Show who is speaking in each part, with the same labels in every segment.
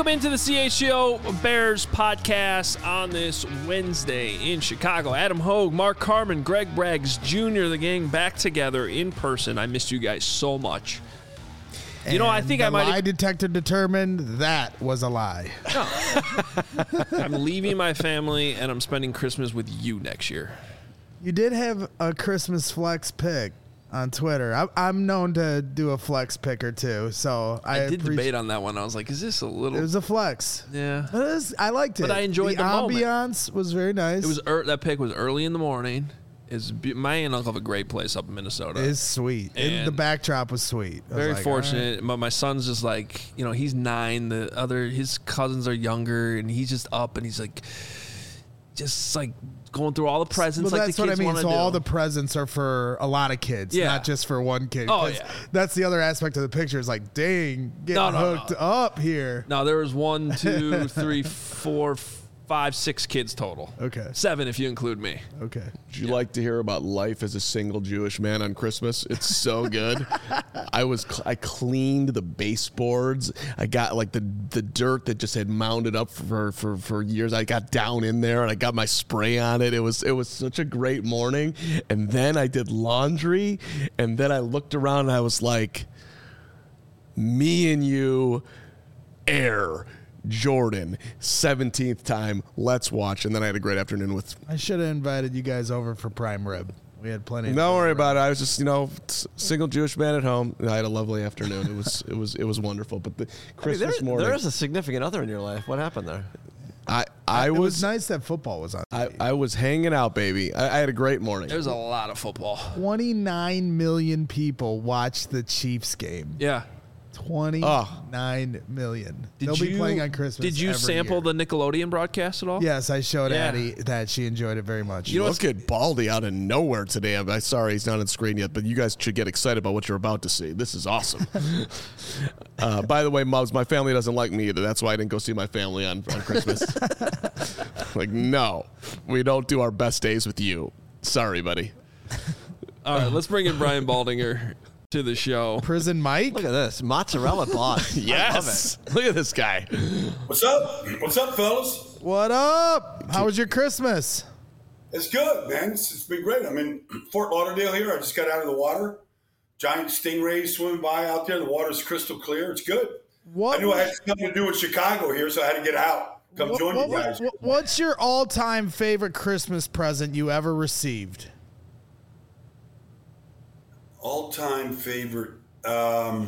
Speaker 1: Welcome into the CHGO Bears podcast on this Wednesday in Chicago. Adam Hogue, Mark Carman, Greg Braggs Jr., the gang back together in person. I missed you guys so much. You know, I think I might.
Speaker 2: The lie detector determined that was a lie.
Speaker 1: No. I'm leaving my family and I'm spending Christmas with you next year.
Speaker 2: You did have a Christmas flex pick on Twitter. I'm known to do a flex pick or two, so I
Speaker 1: did debate on that one. I was like, is this a little...
Speaker 2: It was a flex.
Speaker 1: Yeah.
Speaker 2: I liked it.
Speaker 1: But I enjoyed the moment.
Speaker 2: ambiance was very nice.
Speaker 1: It was that pick was early in the morning. My aunt and uncle have a great place up in Minnesota.
Speaker 2: It's sweet. And the backdrop was sweet.
Speaker 1: Very fortunate. Right. But my son's just like, he's 9. His cousins are younger, and he's just up, and he's like, just like going through all the presents.
Speaker 2: Well,
Speaker 1: like
Speaker 2: that's
Speaker 1: the kids
Speaker 2: what I mean. So
Speaker 1: do.
Speaker 2: all the presents are for a lot of kids, not just for one kid.
Speaker 1: Oh, yeah.
Speaker 2: That's the other aspect of the picture. Is like, dang, getting hooked up here.
Speaker 1: No, there was 1, 2, 3, 4, 5, 6 kids total.
Speaker 2: Okay.
Speaker 1: 7 if you include me.
Speaker 2: Okay.
Speaker 3: Would you like to hear about life as a single Jewish man on Christmas? It's so good. I cleaned the baseboards. I got like the dirt that just had mounded up for years. I got down in there and I got my spray on it. It was such a great morning. And then I did laundry, and then I looked around and I was like, me and you, air. Jordan, 17th time, let's watch. And then I had a great afternoon with...
Speaker 2: I should have invited you guys over for prime rib. We had plenty of...
Speaker 3: Don't worry about it. I was just, single Jewish man at home. I had a lovely afternoon. It was wonderful. But the Christmas morning...
Speaker 4: There is a significant other in your life. What happened there?
Speaker 2: It was nice that football was on.
Speaker 3: I was hanging out, baby. I had a great morning.
Speaker 1: There's a lot of football.
Speaker 2: 29 million people watched the Chiefs game.
Speaker 1: Yeah.
Speaker 2: 29 million. They'll be playing on Christmas.
Speaker 1: Did you sample the Nickelodeon broadcast at all?
Speaker 2: Yes, I showed Addie that. She enjoyed it very much.
Speaker 3: You look at Baldy out of nowhere today. I'm sorry he's not on screen yet, but you guys should get excited about what you're about to see. This is awesome. By the way, Mubs, my family doesn't like me either. That's why I didn't go see my family on Christmas. Like, no, we don't do our best days with you. Sorry, buddy.
Speaker 1: All right, let's bring in Brian Baldinger to the show.
Speaker 2: Prison Mike.
Speaker 4: Look at this mozzarella boss.
Speaker 3: Yes. Look at this guy.
Speaker 5: What's up? What's up, fellas?
Speaker 2: What up? How was your Christmas?
Speaker 5: It's good, man. It's been great. I'm in Fort Lauderdale here. I just got out of the water. Giant stingrays swimming by out there. The water's crystal clear. It's good. I knew I had something to do with Chicago here, so I had to get out. Come join you guys.
Speaker 2: What's your all-time favorite Christmas present you ever received?
Speaker 5: All-time favorite. I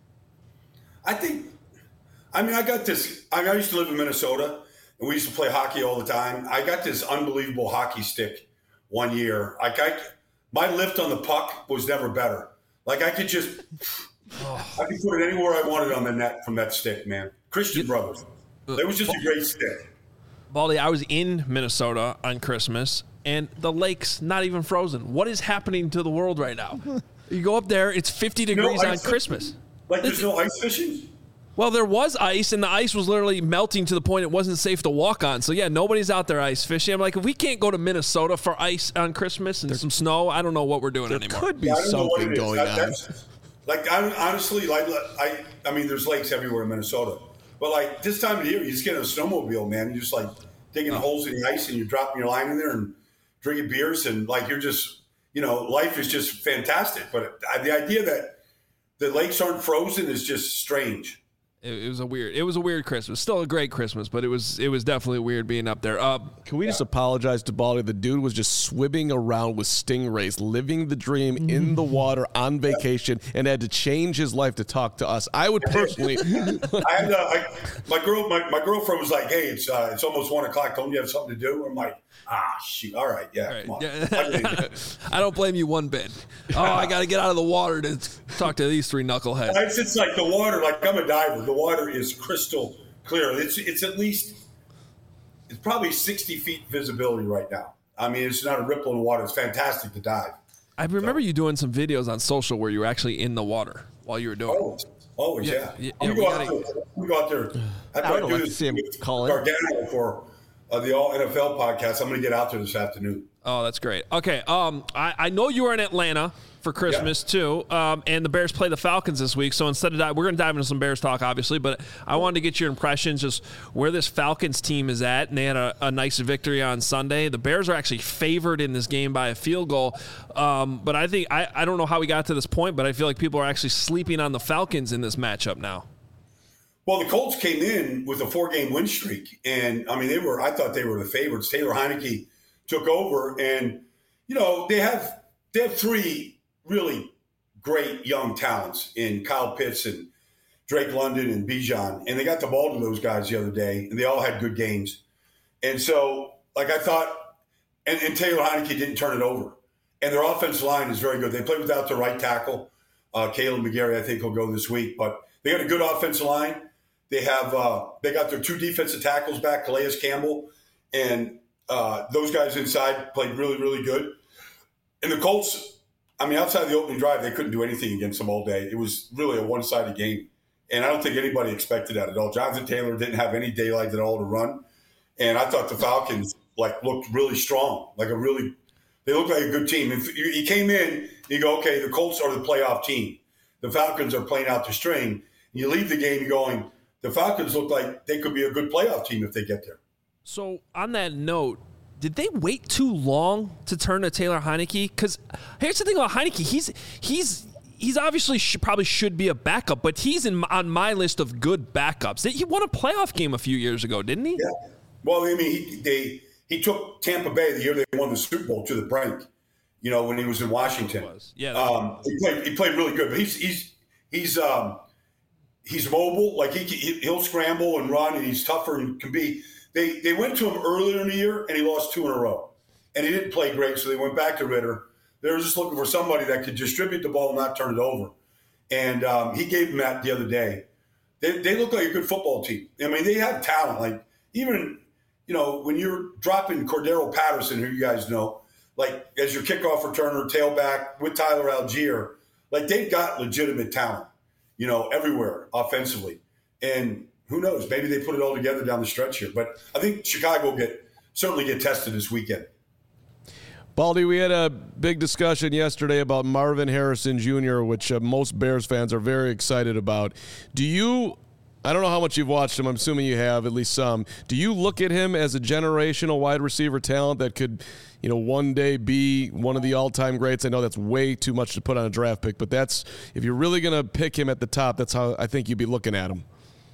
Speaker 5: got this. I used to live in Minnesota, and we used to play hockey all the time. I got this unbelievable hockey stick one year. My lift on the puck was never better. Like, I could just I could put it anywhere I wanted on the net from that stick, man. Christian Brothers. It was just a great stick.
Speaker 1: Baldy, I was in Minnesota on Christmas, and the lake's not even frozen. What is happening to the world right now? You go up there, it's 50 degrees on Christmas.
Speaker 5: Like, there's no ice fishing?
Speaker 1: Well, there was ice, and the ice was literally melting to the point it wasn't safe to walk on. So, yeah, nobody's out there ice fishing. I'm like, if we can't go to Minnesota for ice on Christmas and some snow, I don't know what we're doing anymore.
Speaker 3: Could be something going on.
Speaker 5: Honestly, I mean, there's lakes everywhere in Minnesota. But, like, this time of year, you just get in a snowmobile, man. You're just, like, digging holes in the ice, and you're dropping your line in there and drinking beers. And, like, you're just, life is just fantastic. But the idea that the lakes aren't frozen is just strange.
Speaker 1: It was a weird Christmas. Still a great Christmas, but it was definitely weird being up there.
Speaker 3: Can we just apologize to Baldy? The dude was just swimming around with stingrays, living the dream in the water on vacation, and had to change his life to talk to us. I would personally.
Speaker 5: My girlfriend was like, "Hey, it's almost 1:00. Don't you have something to do?" I'm like, shoot. All right, yeah, come on.
Speaker 1: I don't blame you one bit. I got to get out of the water to talk to these 3 knuckleheads.
Speaker 5: It's like the water. Like, I'm a diver. The water is crystal clear. It's at least, it's probably 60 feet visibility right now. I mean, it's not a ripple in the water. It's fantastic to dive.
Speaker 1: I remember you doing some videos on social where you were actually in the water while you were doing it.
Speaker 5: Always, yeah. We go out there.
Speaker 4: I would like to see him call it.
Speaker 5: Gargano for the All NFL podcast. I'm going to get out there this afternoon.
Speaker 1: Oh, that's great. Okay, I know you were in Atlanta for Christmas too, and the Bears play the Falcons this week. So instead of we're going to dive into some Bears talk, obviously, but I wanted to get your impressions just where this Falcons team is at. And they had a nice victory on Sunday. The Bears are actually favored in this game by a field goal, but I think I don't know how we got to this point, but I feel like people are actually sleeping on the Falcons in this matchup now.
Speaker 5: Well, the Colts came in with a 4-game win streak, and I mean I thought they were the favorites. Taylor Heineke took over, and they have 3 really great young talents in Kyle Pitts and Drake London and Bijan, and they got the ball to those guys the other day, and they all had good games. And so, like I thought, and Taylor Heineke didn't turn it over, and their offensive line is very good. They played without their right tackle, Caleb McGarry. I think he'll go this week, but they got a good offensive line. They have they got their 2 defensive tackles back, Calais Campbell, and those guys inside played really, really good. And the Colts, I mean, outside the opening drive, they couldn't do anything against them all day. It was really a one-sided game, and I don't think anybody expected that at all. Jonathan Taylor didn't have any daylight at all to run, and I thought the Falcons looked really strong, they looked like a good team. If you came in, you go, okay, the Colts are the playoff team. The Falcons are playing out the string. You leave the game going, the Falcons look like they could be a good playoff team if they get there.
Speaker 1: So on that note, did they wait too long to turn to Taylor Heineke? Because here's the thing about Heineke. He's obviously probably should be a backup, but he's on my list of good backups. He won a playoff game a few years ago, didn't he?
Speaker 5: Yeah. Well, I mean, he took Tampa Bay the year they won the Super Bowl to the brink, when he was in Washington.
Speaker 1: Yeah.
Speaker 5: He played really good, but he's mobile. He'll scramble and run, and he's tougher and can be. They went to him earlier in the year, and he lost 2 in a row. And he didn't play great, so they went back to Ritter. They were just looking for somebody that could distribute the ball and not turn it over. And he gave them that the other day. They look like a good football team. I mean, they have talent. Even, when you're dropping Cordero Patterson, who you guys know, as your kickoff returner, tailback, with Tyler Algier, they've got legitimate talent, everywhere offensively. And who knows? Maybe they put it all together down the stretch here. But I think Chicago will certainly get tested this weekend.
Speaker 3: Baldy, we had a big discussion yesterday about Marvin Harrison Jr., which most Bears fans are very excited about. I don't know how much you've watched him. I'm assuming you have, at least some. Do you look at him as a generational wide receiver talent that could, one day be one of the all-time greats? I know that's way too much to put on a draft pick, but if you're really going to pick him at the top, that's how I think you'd be looking at him.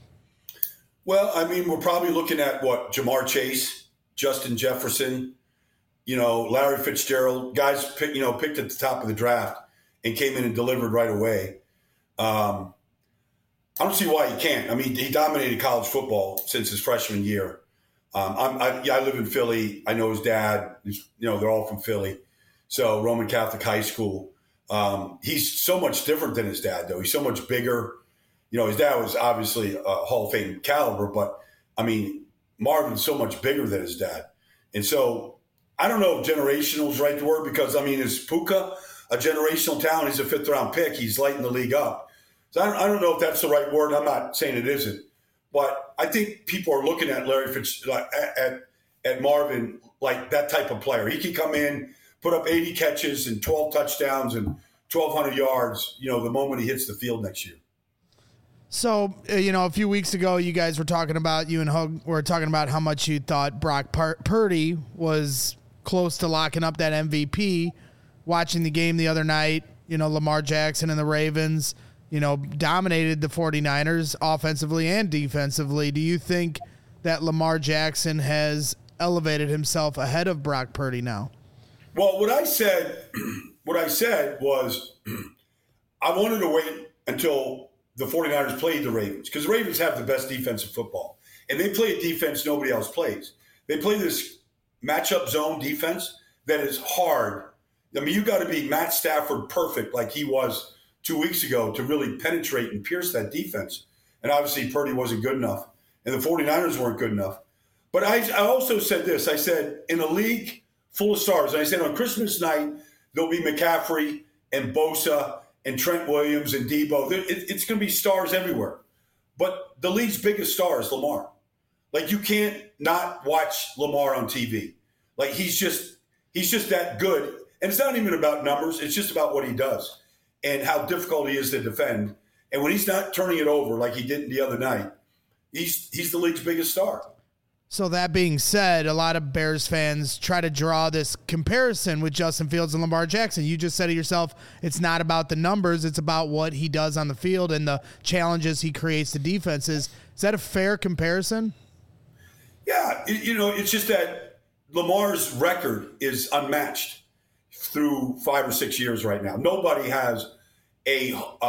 Speaker 5: Well, I mean, we're probably looking at Jamar Chase, Justin Jefferson, Larry Fitzgerald, guys picked at the top of the draft and came in and delivered right away. I don't see why he can't. I mean, he dominated college football since his freshman year. I live in Philly. I know his dad. They're all from Philly. So Roman Catholic High School. He's so much different than his dad, though. He's so much bigger. His dad was obviously a Hall of Fame caliber, but, I mean, Marvin's so much bigger than his dad. And so I don't know if generational is the right word because, I mean, is Puka a generational talent? He's a 5th-round pick. He's lighting the league up. So I don't know if that's the right word. I'm not saying it isn't. But I think people are looking at Larry at Marvin like that type of player. He can come in, put up 80 catches and 12 touchdowns and 1,200 yards, the moment he hits the field next year.
Speaker 2: So, a few weeks ago, you guys were talking about, you and Hug were talking about how much you thought Brock Purdy was close to locking up that MVP. Watching the game the other night, Lamar Jackson and the Ravens, dominated the 49ers offensively and defensively. Do you think that Lamar Jackson has elevated himself ahead of Brock Purdy now?
Speaker 5: Well, what I said was I wanted to wait until the 49ers played the Ravens because the Ravens have the best defensive football. And they play a defense nobody else plays. They play this matchup zone defense that is hard. I mean, you got to be Matt Stafford perfect like he was 2 weeks ago to really penetrate and pierce that defense. And obviously Purdy wasn't good enough. And the 49ers weren't good enough. But I also said this. I said, in a league full of stars, and I said on Christmas night, there'll be McCaffrey and Bosa and Trent Williams and Debo. It's going to be stars everywhere. But the league's biggest star is Lamar. Like, you can't not watch Lamar on TV. Like, he's just that good. And it's not even about numbers. It's just about what he does and how difficult he is to defend. And when he's not turning it over like he did the other night, he's the league's biggest star.
Speaker 2: So that being said, a lot of Bears fans try to draw this comparison with Justin Fields and Lamar Jackson. You just said it yourself, it's not about the numbers, it's about what he does on the field and the challenges he creates to defenses. Is that a fair comparison?
Speaker 5: Yeah, it's just that Lamar's record is unmatched through 5 or 6 years right now. Nobody has a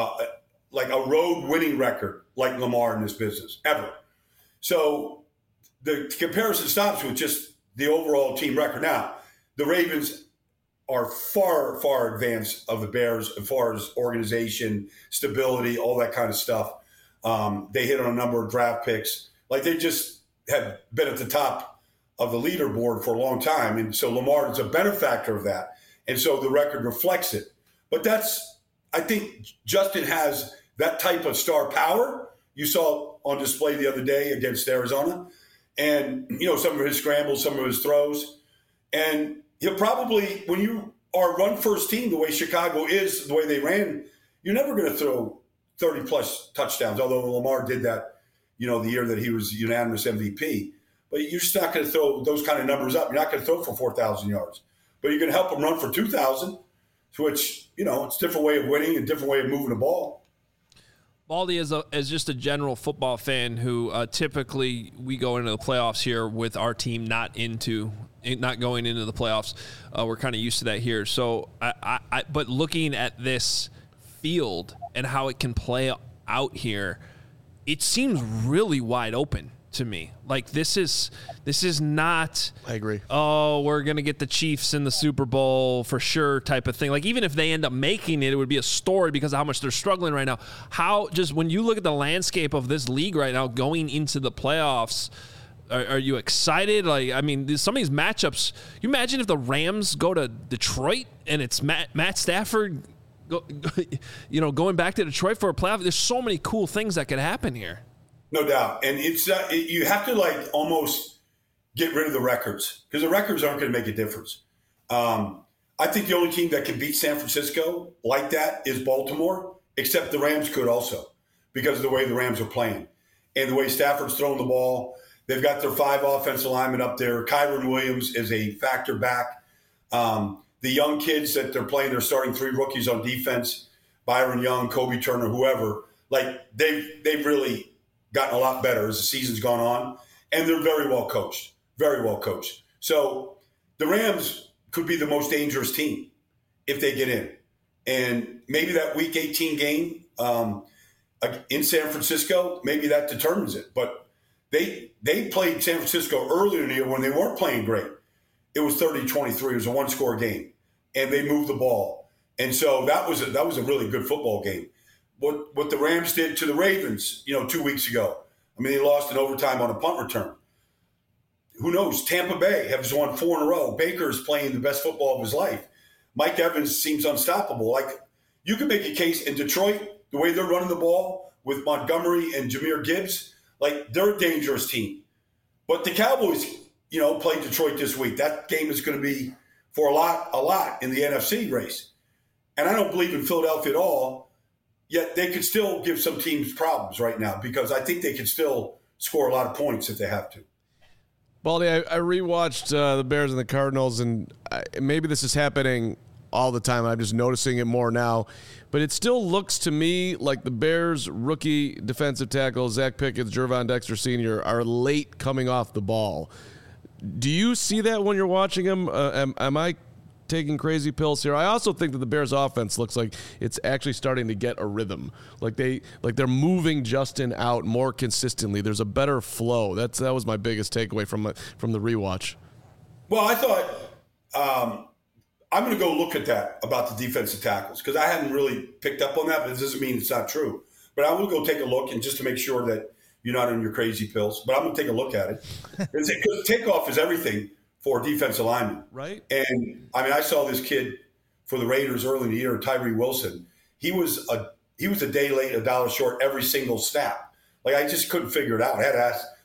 Speaker 5: road winning record like Lamar in this business, ever. So the comparison stops with just the overall team record. Now, the Ravens are far, far advanced of the Bears as far as organization, stability, all that kind of stuff. They hit on a number of draft picks. Like, they just have been at the top of the leaderboard for a long time. And so Lamar is a benefactor of that. And so the record reflects it. But I think Justin has that type of star power. You saw on display the other day against Arizona. And, some of his scrambles, some of his throws. And he'll probably, when you are a run-first team, the way Chicago is, the way they ran, you're never going to throw 30-plus touchdowns, although Lamar did that, the year that he was unanimous MVP. But you're just not going to throw those kind of numbers up. You're not going to throw for 4,000 yards. But you're going to help him run for 2,000, which, it's a different way of winning, a different way of moving the ball.
Speaker 1: Baldy, as just a general football fan who typically we go into the playoffs here with our team not going into the playoffs. We're kind of used to that here. So, but looking at this field and how it can play out here, it seems really wide open to me. Like, this is not,
Speaker 3: I agree.
Speaker 1: Oh, we're going to get the Chiefs in the Super Bowl for sure type of thing. Like, even if they end up making it, it would be a story because of how much they're struggling right now. When you look at the landscape of this league right now going into the playoffs, are you excited? Like, I mean, some of these matchups, you imagine if the Rams go to Detroit and it's Matt Stafford going back to Detroit for a playoff. There's so many cool things that could happen here.
Speaker 5: No doubt. And it's you have to almost get rid of the records because the records aren't going to make a difference. I think the only team that can beat San Francisco like that is Baltimore, except the Rams could also because of the way the Rams are playing and the way Stafford's throwing the ball. They've got their 5 offensive linemen up there. Kyron Williams is a factor back. The young kids that they're playing, they're starting 3 rookies on defense, Byron Young, Kobe Turner, whoever. They've really gotten a lot better as the season's gone on, and they're very well coached, very well coached. So the Rams could be the most dangerous team if they get in. And maybe that Week 18 game in San Francisco, maybe that determines it. But they played San Francisco earlier in the year when they weren't playing great. It was 30-23. It was a one-score game, and they moved the ball. And so that was a really good football game. What the Rams did to the Ravens, 2 weeks ago. I mean, they lost in overtime on a punt return. Who knows? Tampa Bay has won 4 in a row. Baker's playing the best football of his life. Mike Evans seems unstoppable. You can make a case in Detroit, the way they're running the ball with Montgomery and Jahmyr Gibbs, they're a dangerous team. But the Cowboys, played Detroit this week. That game is going to be for a lot in the NFC race. And I don't believe in Philadelphia at all. Yet they could still give some teams problems right now because I think they could still score a lot of points if they have to.
Speaker 3: Baldy, I rewatched the Bears and the Cardinals, and maybe this is happening all the time. I'm just noticing it more now. But it still looks to me like the Bears' rookie defensive tackle, Zach Pickett, Gervon Dexter Sr., are late coming off the ball. Do you see that when you're watching them? Am I taking crazy pills here? I also think that the Bears offense looks like it's actually starting to get a rhythm. They're moving Justin out more consistently. There's a better flow. That was my biggest takeaway from the rewatch.
Speaker 5: Well, I thought I'm going to go look at that about the defensive tackles because I hadn't really picked up on that, but it doesn't mean it's not true. But I will go take a look and just to make sure that you're not on your crazy pills. But I'm going to take a look at it because takeoff is everything for defensive linemen.
Speaker 3: Right.
Speaker 5: And, I saw this kid for the Raiders early in the year, Tyree Wilson. He was a day late, $1 short every single snap. I just couldn't figure it out. I had to ask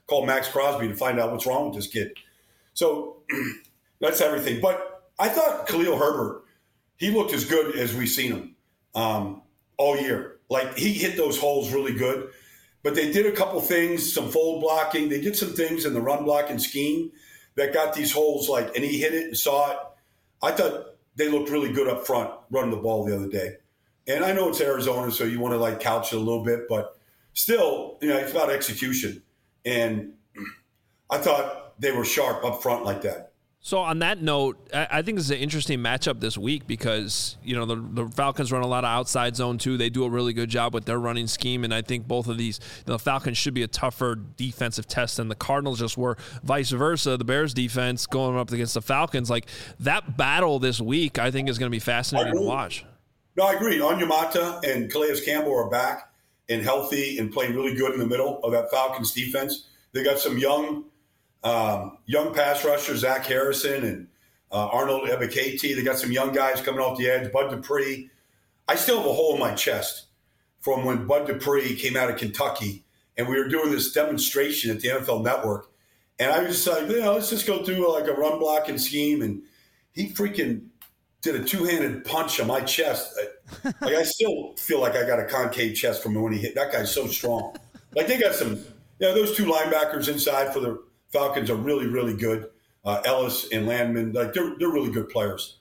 Speaker 5: call Max Crosby to find out what's wrong with this kid. So that's everything. But I thought Khalil Herbert, he looked as good as we've seen him all year. Like, he hit those holes really good. But they did a couple things, some fold blocking. They did some things in the run blocking scheme that got these holes, like, and he hit it and saw it. I thought they looked really good up front running the ball the other day. And I know it's Arizona, so you want to, like, couch it a little bit. But still, it's about execution. And I thought they were sharp up front like that.
Speaker 1: So on that note, I think this is an interesting matchup this week because, the Falcons run a lot of outside zone too. They do a really good job with their running scheme, and I think both of these, the Falcons should be a tougher defensive test than the Cardinals just were. Vice versa, the Bears defense going up against the Falcons, like that battle this week, I think is going to be fascinating to watch.
Speaker 5: No, I agree. Onyemata and Calais Campbell are back and healthy and playing really good in the middle of that Falcons defense. They got some young pass rushers, Zach Harrison and Arnold Ebiketie. They got some young guys coming off the edge. Bud Dupree. I still have a hole in my chest from when Bud Dupree came out of Kentucky and we were doing this demonstration at the NFL Network. And I was just like, let's just go through like a run blocking scheme. And he freaking did a two-handed punch on my chest. Like, I still feel like I got a concave chest from when he hit. That guy's so strong. Like, they got some, those two linebackers inside for the Falcons are really, really good. Ellis and Landman, like they're really good players.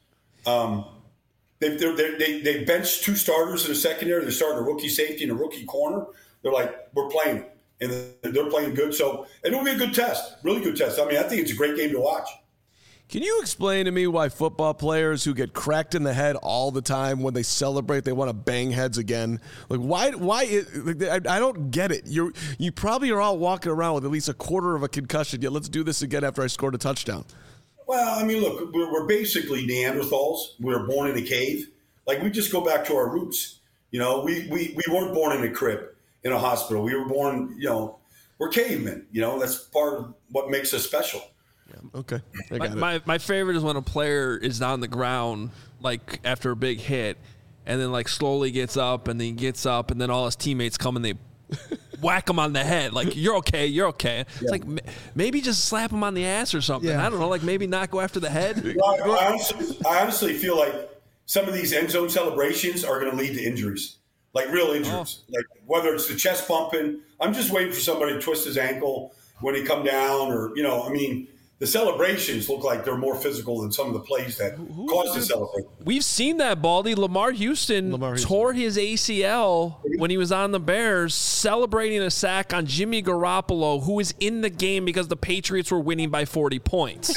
Speaker 5: They benched two starters in the secondary. They're starting a rookie safety and a rookie corner. They're like, we're playing, and they're playing good. So it'll be a good test, really good test. I mean, I think it's a great game to watch.
Speaker 3: Can you explain to me why football players who get cracked in the head all the time, when they celebrate, they want to bang heads again? Like, why? I don't get it. You probably are all walking around with at least a quarter of a concussion. Yet let's do this again after I scored a touchdown.
Speaker 5: Well, I mean, look, we're basically Neanderthals. We were born in a cave. Like, we just go back to our roots. We weren't born in a crib in a hospital. We were born, we're cavemen. That's part of what makes us special.
Speaker 3: Yeah, okay.
Speaker 1: My favorite is when a player is on the ground, like after a big hit, and then like slowly gets up, and then gets up, and then all his teammates come and they whack him on the head. Like, you're okay. Yeah. It's like maybe just slap him on the ass or something. Yeah. I don't know. Like, maybe not go after the head.
Speaker 5: Well, I honestly feel like some of these end zone celebrations are going to lead to injuries, like real injuries. Like whether it's the chest bumping. I'm just waiting for somebody to twist his ankle when he come down, or the celebrations look like they're more physical than some of the plays that caused the celebration.
Speaker 1: We've seen that, Baldy. Lamar Houston tore his ACL when he was on the Bears, celebrating a sack on Jimmy Garoppolo, who was in the game because the Patriots were winning by 40 points.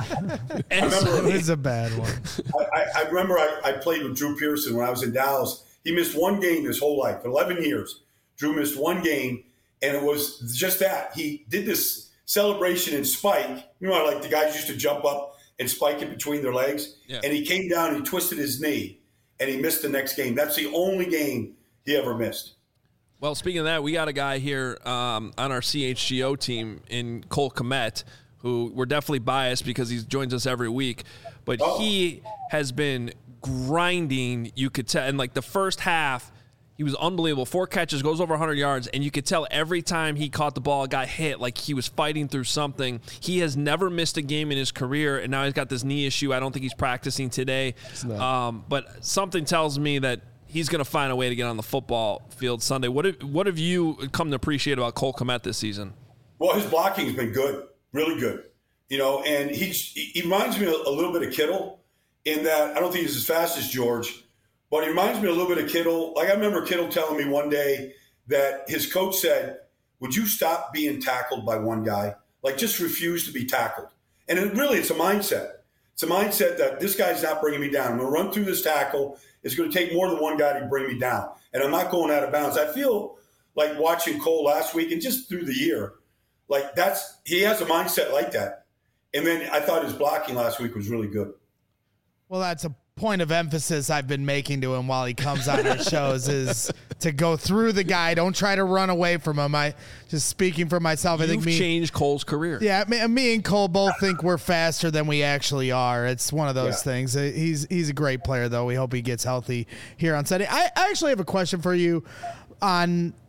Speaker 2: It was a bad one.
Speaker 5: I remember I played with Drew Pearson when I was in Dallas. He missed one game his whole life. For 11 years, Drew missed one game, and it was just that. He did this celebration and spike, like the guys used to jump up and spike it between their legs. Yeah. And he came down and he twisted his knee and he missed the next game. That's the only game he ever missed.
Speaker 1: Well, speaking of that, we got a guy here on our CHGO team in Cole Kmet, who we're definitely biased because he joins us every week, but he has been grinding, you could tell. And like the first half, he was unbelievable. 4 catches, goes over 100 yards, and you could tell every time he caught the ball, got hit, like he was fighting through something. He has never missed a game in his career, and now he's got this knee issue. I don't think he's practicing today. But something tells me that he's going to find a way to get on the football field Sunday. What have you come to appreciate about Cole Kmet this season?
Speaker 5: Well, his blocking's been good, really good. And he reminds me a little bit of Kittle in that I don't think he's as fast as George, but he reminds me a little bit of Kittle. Like, I remember Kittle telling me one day that his coach said, would you stop being tackled by one guy? Like, just refuse to be tackled. And it's a mindset. It's a mindset that this guy's not bringing me down. I'm going to run through this tackle. It's going to take more than one guy to bring me down. And I'm not going out of bounds. I feel like watching Cole last week and just through the year, like he has a mindset like that. And then I thought his blocking last week was really good.
Speaker 2: Well, that's a point of emphasis I've been making to him while he comes on our shows is to go through the guy. Don't try to run away from him. I just speaking for myself. I think
Speaker 1: changed Cole's career.
Speaker 2: Yeah, me and Cole both think we're faster than we actually are. It's one of those things. He's a great player, though. We hope he gets healthy here on Sunday. I actually have a question for you on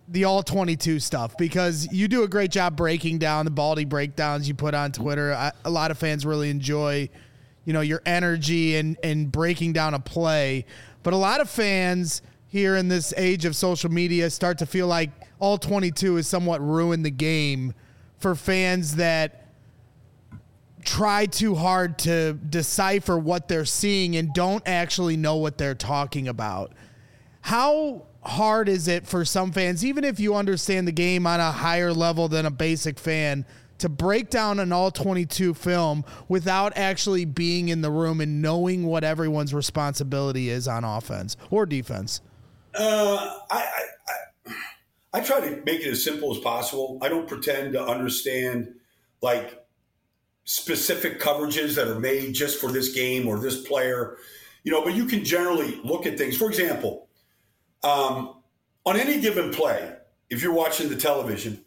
Speaker 2: the all 22 stuff, because you do a great job breaking down the Baldy breakdowns you put on Twitter. A lot of fans really enjoy, your energy and breaking down a play. But a lot of fans here in this age of social media start to feel like all 22 has somewhat ruined the game for fans that try too hard to decipher what they're seeing and don't actually know what they're talking about. How hard is it for some fans, even if you understand the game on a higher level than a basic fan, to break down an all 22 film without actually being in the room and knowing what everyone's responsibility is on offense or defense?
Speaker 5: I try to make it as simple as possible. I don't pretend to understand like specific coverages that are made just for this game or this player, but you can generally look at things. For example, on any given play, if you're watching the television,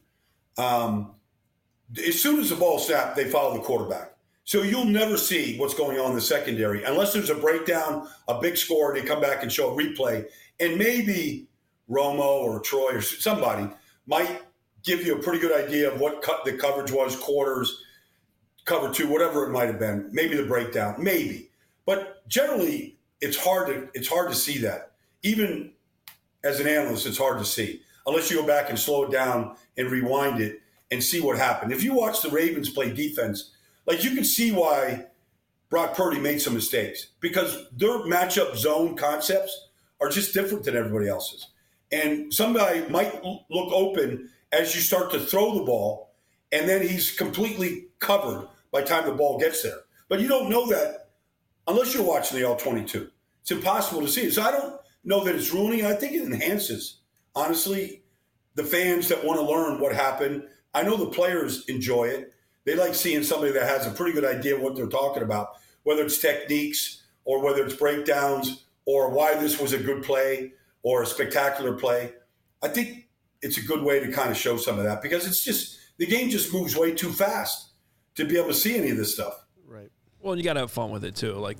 Speaker 5: as soon as the ball snapped, they follow the quarterback. So you'll never see what's going on in the secondary unless there's a breakdown, a big score, and they come back and show a replay. And maybe Romo or Troy or somebody might give you a pretty good idea of what the coverage was, quarters, cover two, whatever it might have been. Maybe the breakdown, maybe. But generally, it's hard to see that. Even as an analyst, it's hard to see unless you go back and slow it down and rewind it and see what happened. If you watch the Ravens play defense, like you can see why Brock Purdy made some mistakes because their matchup zone concepts are just different than everybody else's. And somebody might look open as you start to throw the ball, and then he's completely covered by the time the ball gets there. But you don't know that unless you're watching the all-22. It's impossible to see it. So I don't know that it's ruining. I think it enhances, honestly, the fans that want to learn what happened. I know the players enjoy it. They like seeing somebody that has a pretty good idea of what they're talking about, whether it's techniques or whether it's breakdowns or why this was a good play or a spectacular play. I think it's a good way to kind of show some of that because it's just the game just moves way too fast to be able to see any of this stuff.
Speaker 1: Right. Well, you got to have fun with it too. Like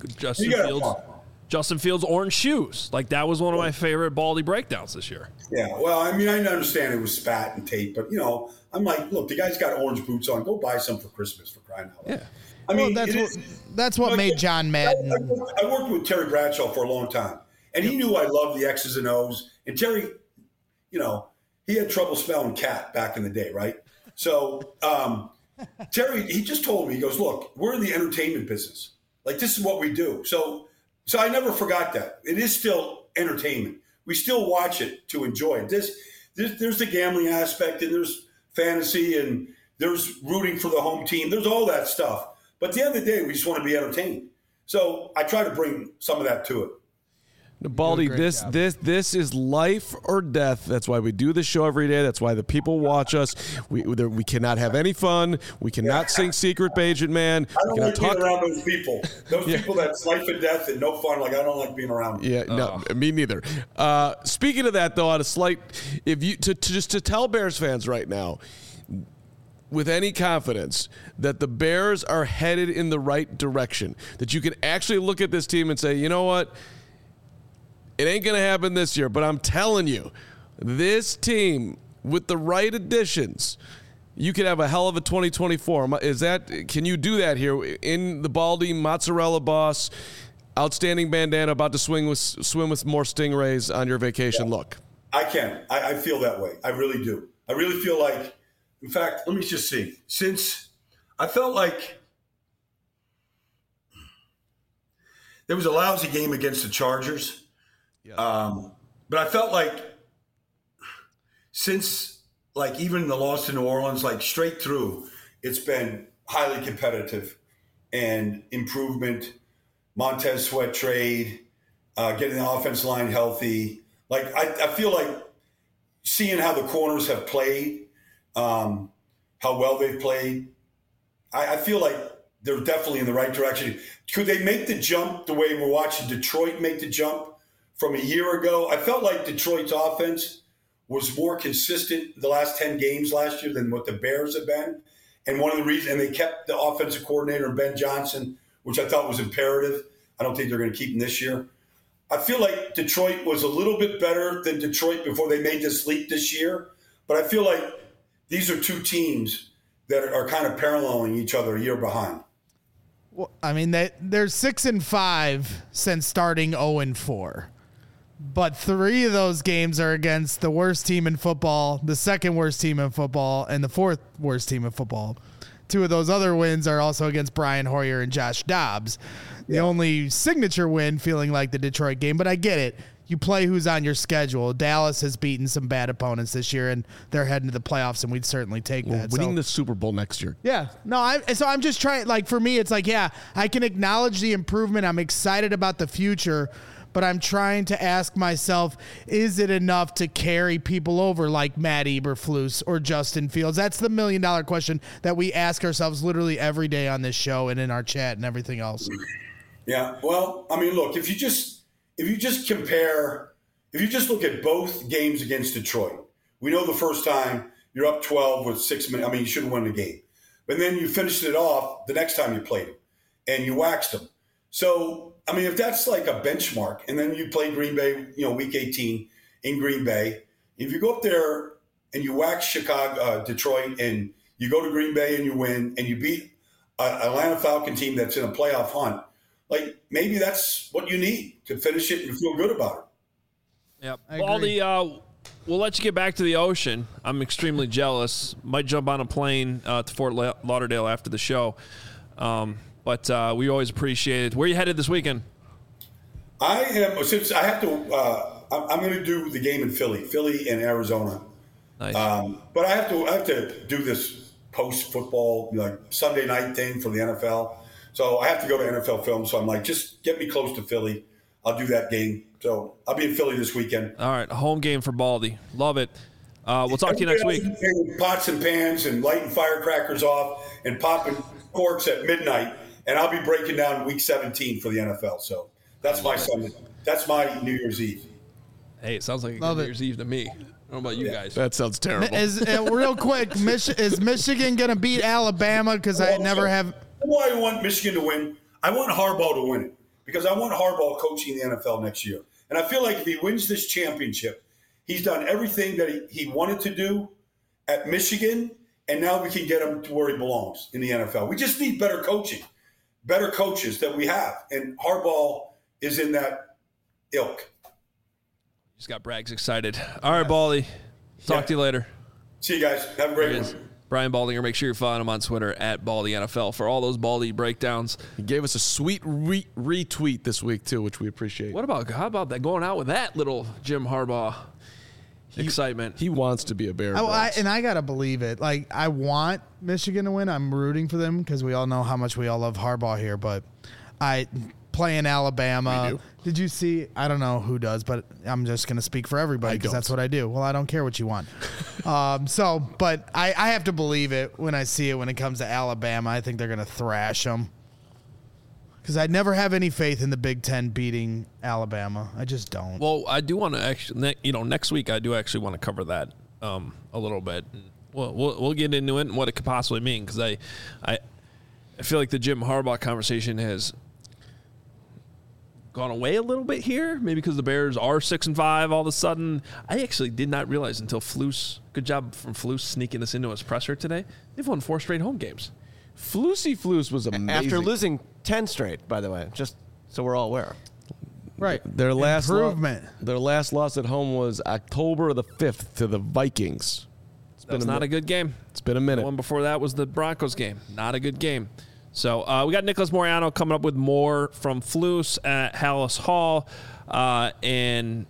Speaker 1: Justin Fields' orange shoes. Like that was one of my favorite Baldy breakdowns this year.
Speaker 5: Yeah. Well, I mean, I understand it was spat and tape, but I'm like, look, the guy's got orange boots on. Go buy some for Christmas for crying out loud. Yeah.
Speaker 2: I mean, that's what made John Madden.
Speaker 5: I worked with Terry Bradshaw for a long time, and he knew I loved the X's and O's. And Terry, he had trouble spelling cat back in the day, right? So Terry, he just told me, he goes, look, we're in the entertainment business. Like, this is what we do. So I never forgot that. It is still entertainment. We still watch it to enjoy it. There's the gambling aspect, and there's fantasy, and there's rooting for the home team. There's all that stuff. But at the end of the day, we just want to be entertained. So I try to bring some of that to it.
Speaker 3: Baldy, this is life or death. That's why we do this show every day. That's why the people watch us. We cannot have any fun. We cannot sing Secret Agent Man.
Speaker 5: I don't like being around those people. Those people that's life and death and no fun. Like I don't like being around them.
Speaker 3: Yeah, no, me neither. Speaking of that, though, on a slight, just to tell Bears fans right now, with any confidence that the Bears are headed in the right direction, that you can actually look at this team and say, you know what? It ain't going to happen this year, but I'm telling you, this team with the right additions, you could have a hell of a 2024. Can you do that here in the Baldy mozzarella boss, outstanding bandana, about to swim with more stingrays on your vacation look?
Speaker 5: I can. I feel that way. I really do. I really feel like, in fact, let me just see. Since I felt like there was a lousy game against the Chargers. Yeah. But I felt like since like even the loss to New Orleans, like straight through, it's been highly competitive and improvement. Montez Sweat trade, getting the offense line healthy. Like I feel like seeing how the corners have played, how well they've played, I feel like they're definitely in the right direction. Could they make the jump the way we're watching Detroit make the jump from a year ago? I felt like Detroit's offense was more consistent the last 10 games last year than what the Bears have been. And one of the reasons, and they kept the offensive coordinator, Ben Johnson, which I thought was imperative. I don't think they're going to keep him this year. I feel like Detroit was a little bit better than Detroit before they made this leap this year. But I feel like these are two teams that are kind of paralleling each other a year behind.
Speaker 2: Well, I mean, they're 6-5 since starting 0-4. But 3 of those games are against the worst team in football, the second worst team in football, and the fourth worst team in football. 2 of those other wins are also against Brian Hoyer and Josh Dobbs. The only signature win feeling like the Detroit game, but I get it. You play who's on your schedule. Dallas has beaten some bad opponents this year, and they're heading to the playoffs, and we'd certainly take that.
Speaker 3: Winning the Super Bowl next year.
Speaker 2: Yeah. No, so I'm just trying, like, for me, it's like, yeah, I can acknowledge the improvement. I'm excited about the future, but I'm trying to ask myself, is it enough to carry people over like Matt Eberflus or Justin Fields? That's the $1 million question that we ask ourselves literally every day on this show and in our chat and everything else.
Speaker 5: Yeah. Well, I mean, look, if you just look at both games against Detroit, we know the first time you're up 12 with 6 minutes. I mean, you shouldn't win the game. But then you finished it off the next time you played them, and you waxed them. So, I mean, if that's like a benchmark, and then you play Green Bay, week 18 in Green Bay, if you go up there and you wax Detroit, and you go to Green Bay and you win, and you beat an Atlanta Falcon team that's in a playoff hunt, like maybe that's what you need to finish it and feel good about it.
Speaker 1: Yep. Baldy, we'll let you get back to the ocean. I'm extremely jealous. Might jump on a plane to Fort Lauderdale after the show. But we always appreciate it. Where are you headed this weekend?
Speaker 5: I'm going to do the game in Philly and Arizona.
Speaker 1: Nice.
Speaker 5: But I have to do this post-football, like Sunday night thing for the NFL. So I have to go to NFL Film. So I'm like, just get me close to Philly. I'll do that game. So I'll be in Philly this weekend.
Speaker 1: All right, a home game for Baldy. Love it. We'll talk to you next week.
Speaker 5: Pots and pans and lighting firecrackers off and popping corks at midnight. And I'll be breaking down week 17 for the NFL. So that's my Sunday. That's my New Year's Eve.
Speaker 1: Hey, it sounds like a good New Year's Eve to me. I don't know about you guys.
Speaker 3: That sounds terrible.
Speaker 2: Real quick, is Michigan going to beat Alabama? Because I never have.
Speaker 5: Why I want Michigan to win? I want Harbaugh to win it because I want Harbaugh coaching the NFL next year. And I feel like if he wins this championship, he's done everything that he wanted to do at Michigan, and now we can get him to where he belongs in the NFL. We just need better coaching, better coaches that we have. And Harbaugh is in that ilk.
Speaker 1: Just got Braggs excited. All right, Baldy. Talk to you later.
Speaker 5: See you guys. Have a great one.
Speaker 1: Brian Baldinger. Make sure you're following him on Twitter at BaldyNFL for all those Baldy breakdowns.
Speaker 3: He gave us a sweet retweet this week, too, which we appreciate.
Speaker 1: How about that? Going out with that little Jim Harbaugh excitement.
Speaker 3: He wants to be a Bear.
Speaker 2: And I got to believe it. Like, I want Michigan to win. I'm rooting for them because we all know how much we all love Harbaugh here. But playing Alabama.
Speaker 3: We do.
Speaker 2: Did you see? I don't know who does, but I'm just going to speak for everybody because that's what I do. Well, I don't care what you want. But I have to believe it when I see it when it comes to Alabama. I think they're going to thrash them because I never have any faith in the Big Ten beating Alabama. I just don't.
Speaker 1: Well, I do want to actually, next week I do actually want to cover that a little bit. We'll get into it and what it could possibly mean because I feel like the Jim Harbaugh conversation has gone away a little bit here, maybe because the Bears are 6-5 all of a sudden. I actually did not realize until Flus, good job from Flus sneaking this into his presser today, they've won 4 straight home games.
Speaker 3: Flus was amazing.
Speaker 4: After losing 10 straight, by the way, just so we're all aware.
Speaker 2: Right.
Speaker 3: Their last
Speaker 2: improvement.
Speaker 3: Their last loss at home was October the 5th to the Vikings.
Speaker 1: That's not a good game.
Speaker 3: It's been a minute.
Speaker 1: The one before that was the Broncos game. Not a good game. So we got Nicholas Moriano coming up with more from Flus at Hallis Hall. And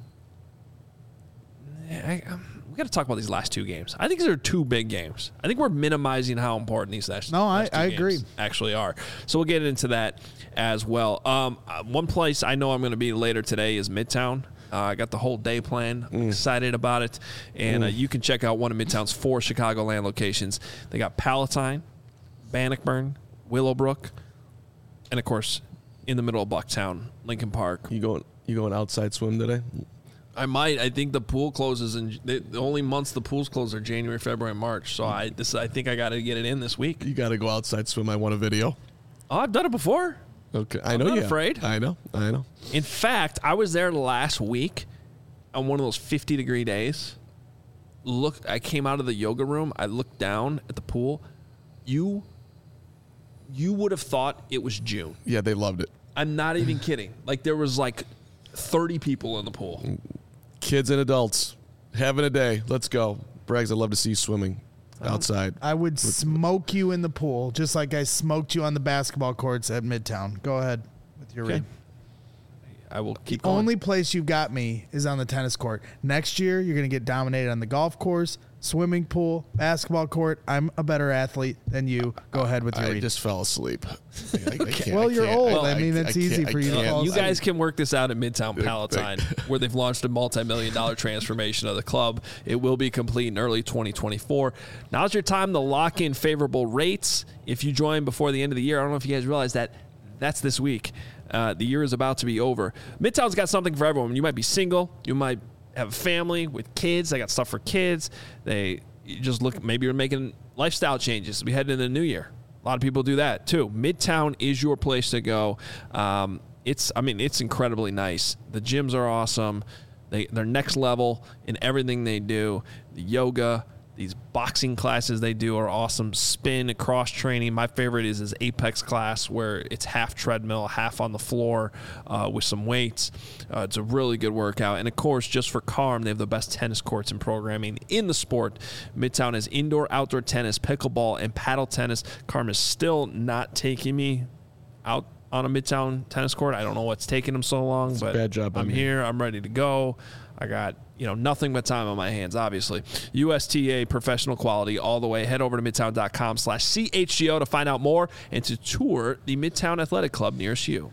Speaker 1: we got to talk about these last 2 games. I think these are 2 big games. I think we're minimizing how important these last 2
Speaker 2: I
Speaker 1: games
Speaker 2: agree.
Speaker 1: actually are. So we'll get into that as well. One place I know I'm going to be later today is Midtown. I got the whole day planned. I'm excited about it. And you can check out one of Midtown's 4 Chicagoland locations. They got Palatine, Bannockburn, Willowbrook, and of course, in the middle of Bucktown, Lincoln Park.
Speaker 3: You going outside swim today?
Speaker 1: I might. I think the pool closes the only months the pools close are January, February, and March. So I think I got to get it in this week.
Speaker 3: You got to go outside swim. I want a video.
Speaker 1: Oh, I've done it before.
Speaker 3: Okay,
Speaker 1: I'm not afraid.
Speaker 3: I know.
Speaker 1: In fact, I was there last week on one of those 50-degree days. I came out of the yoga room. I looked down at the pool. You would have thought it was June.
Speaker 3: Yeah, they loved it.
Speaker 1: I'm not even kidding. Like, there was like 30 people in the pool.
Speaker 3: Kids and adults having a day. Let's go. Braggs, I'd love to see you swimming outside.
Speaker 2: I would smoke you in the pool, just like I smoked you on the basketball courts at Midtown. Go ahead with your read.
Speaker 1: I will keep
Speaker 2: The
Speaker 1: going.
Speaker 2: only place you got me is on the tennis court. Next year, you're going to get dominated on the golf course, swimming pool, basketball court. I'm a better athlete than you. Go ahead with your
Speaker 3: I
Speaker 2: read.
Speaker 3: just fell asleep. I can't-
Speaker 2: Well,
Speaker 3: I
Speaker 2: you're
Speaker 3: can't-
Speaker 2: old. I mean, it's easy for you to fall
Speaker 1: You
Speaker 2: asleep.
Speaker 1: guys can work this out at Midtown Palatine, where they've launched a multi-million-dollar transformation of the club. It will be complete in early 2024. Now's your time to lock in favorable rates. If you join before the end of the year, I don't know if you guys realize that that's this week. The year is about to be over. Midtown's got something for everyone. You might be single. You might have a family with kids. They got stuff for kids. You just look, maybe you're making lifestyle changes. We head into the new year. A lot of people do that too. Midtown is your place to go. It's incredibly nice. The gyms are awesome. They're next level in everything they do. The yoga, these boxing classes they do are awesome. Spin, cross training. My favorite is his Apex class, where it's half treadmill, half on the floor with some weights. It's a really good workout. And of course, just for Carm, they have the best tennis courts and programming in the sport. Midtown has indoor, outdoor tennis, pickleball, and paddle tennis. Carm is still not taking me out on a Midtown tennis court. I don't know what's taking them so long, but
Speaker 3: bad job on
Speaker 1: I'm
Speaker 3: me.
Speaker 1: here. I'm ready to go. I got nothing but time on my hands, obviously. USTA professional quality all the way. Head over to midtown.com/CHGO to find out more and to tour the Midtown Athletic Club nearest you.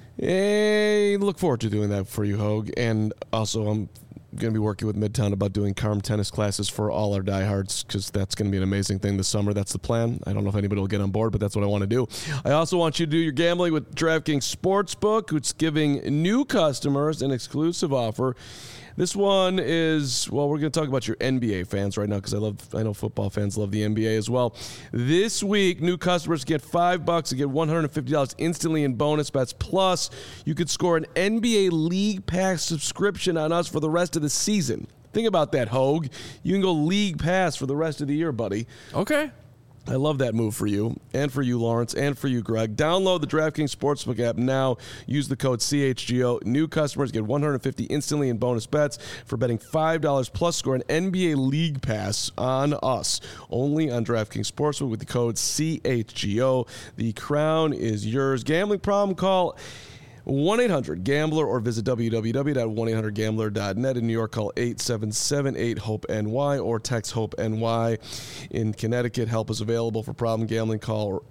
Speaker 3: Hey, look forward to doing that for you, Hogue. And also, I'm going to be working with Midtown about doing Carm tennis classes for all our diehards, because that's going to be an amazing thing this summer. That's the plan. I don't know if anybody will get on board, but that's what I want to do. I also want you to do your gambling with DraftKings Sportsbook, which is giving new customers an exclusive offer. This one is, well, we're going to talk about your NBA fans right now, because I know football fans love the NBA as well. This week, new customers get $5 to get $150 instantly in bonus bets. Plus, you could score an NBA League Pass subscription on us for the rest of the season. Think about that, Hogue. You can go League Pass for the rest of the year, buddy.
Speaker 1: Okay.
Speaker 3: I love that move for you, and for you, Lawrence, and for you, Greg. Download the DraftKings Sportsbook app now. Use the code CHGO. New customers get $150 instantly in bonus bets for betting $5 plus score an NBA League Pass on us. Only on DraftKings Sportsbook with the code CHGO. The crown is yours. Gambling problem? Call 1-800-GAMBLER or visit www.1800gambler.net. In New York, call 877-8-HOPE-NY or text HOPE-NY. In Connecticut, help is available for problem gambling. Call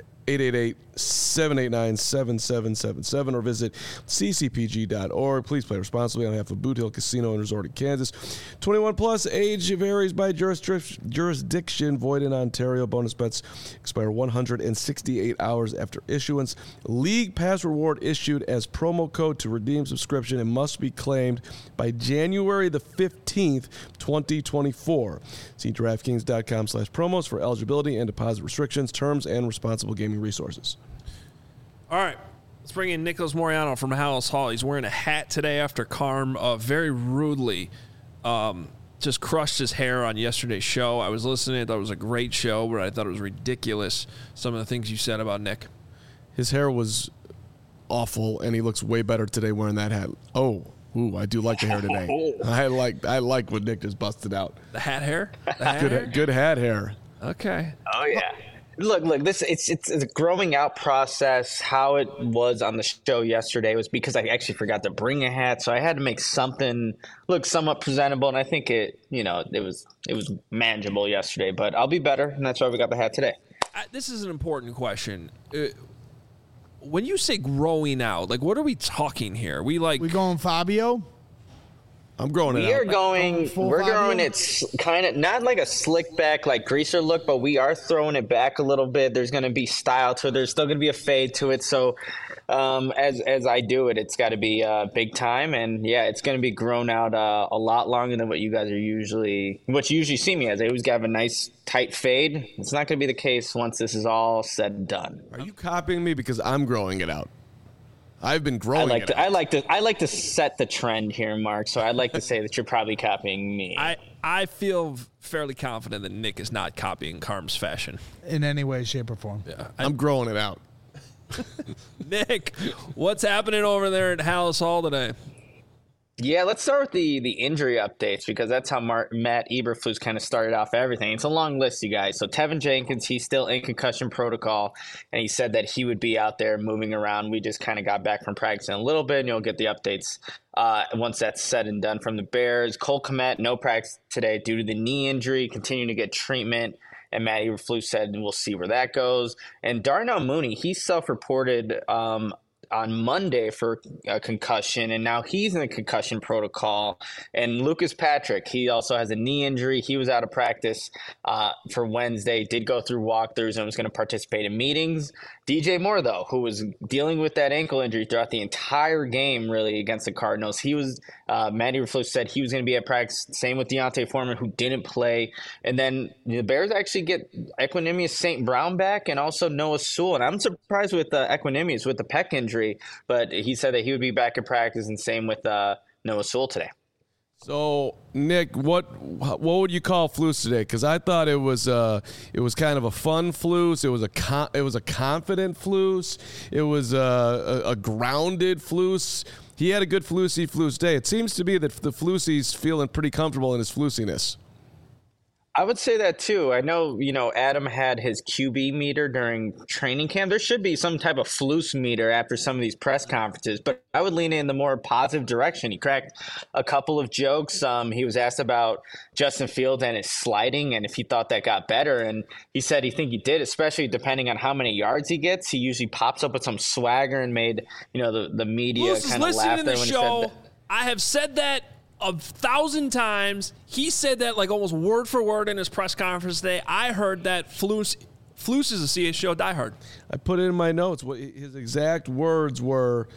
Speaker 3: 888-789-7777 or visit ccpg.org. Please play responsibly on behalf of Boot Hill Casino and Resort in Kansas. 21 plus, age varies by jurisdiction. Void in Ontario. Bonus bets expire 168 hours after issuance. League Pass reward issued as promo code to redeem subscription and must be claimed by January the 15th, 2024. See DraftKings.com/promos for eligibility and deposit restrictions, terms, and responsible gaming resources.
Speaker 1: All right. Let's bring in Nicholas Moriano from Hallis Hall. He's wearing a hat today after Carm very rudely just crushed his hair on yesterday's show. I was listening. I thought it was a great show, but I thought it was ridiculous, some of the things you said about Nick.
Speaker 3: His hair was awful, and he looks way better today wearing that hat. Ooh, I do like the hair today. I like what Nick just busted out.
Speaker 1: The hat hair? The hat hair?
Speaker 3: Good hat hair.
Speaker 1: Okay.
Speaker 6: Oh yeah. Look, this it's a growing out process. How it was on the show yesterday was because I actually forgot to bring a hat, so I had to make something look somewhat presentable, and I think it was manageable yesterday, but I'll be better, and that's why we got the hat today.
Speaker 1: This is an important question. When you say growing out, like, what are we talking here? We
Speaker 2: going Fabio?
Speaker 3: I'm growing it out.
Speaker 6: We're growing it kind of not like a slick back like greaser look, but we are throwing it back a little bit. There's going to be style to it. There's still going to be a fade to it. So as I do it, it's got to be big time. And yeah, it's going to be grown out a lot longer than what you usually see me as. I always have a nice tight fade. It's not going to be the case once this is all said and done.
Speaker 3: Are you copying me because I'm growing it out? I've been growing
Speaker 6: I like to set the trend here, Mark. So I'd like to say that you're probably copying me.
Speaker 1: I feel fairly confident that Nick is not copying Carm's fashion
Speaker 2: in any way, shape, or form.
Speaker 1: Yeah,
Speaker 3: I'm growing it out.
Speaker 1: Nick, what's happening over there at Hallis Hall today?
Speaker 6: Yeah, let's start with the injury updates because that's how Matt Eberflus kind of started off everything. It's a long list, you guys. So Tevin Jenkins, he's still in concussion protocol, and he said that he would be out there moving around. We just kind of got back from practicing a little bit, and you'll get the updates once that's said and done from the Bears. Cole Kmet, no practice today due to the knee injury, continuing to get treatment. And Matt Eberflus said, we'll see where that goes. And Darnell Mooney, he self-reported on Monday for a concussion, and now he's in the concussion protocol. And Lucas Patrick, he also has a knee injury. He was out of practice for Wednesday, did go through walkthroughs and was going to participate in meetings. DJ Moore, though, who was dealing with that ankle injury throughout the entire game, really, against the Cardinals, he was Matt Eberflus said he was going to be at practice. Same with Deontay Foreman, who didn't play. And then the Bears actually get Equanimeous St. Brown back and also Noah Sewell. And I'm surprised with Equanimeous with the pec injury, but he said that he would be back at practice, and same with Noah Sewell today.
Speaker 3: So, Nick, what would you call Flus today? Because I thought it was kind of a fun Flus. It was a confident Flus. It was a grounded Flus. He had a good Flus day. It seems to be that the Flusy's feeling pretty comfortable in his Flusiness.
Speaker 6: I would say that too. I know, Adam had his QB meter during training camp. There should be some type of Flus meter after some of these press conferences, but I would lean in the more positive direction. He cracked a couple of jokes. He was asked about Justin Fields and his sliding and if he thought that got better. And he said he think he did, especially depending on how many yards he gets. He usually pops up with some swagger and made, the media kind of laugh there when he said that.
Speaker 1: I have said that 1,000 times. He said that like almost word for word in his press conference today. I heard that Flus is a CHGO diehard.
Speaker 3: I put it in my notes. What his exact words were,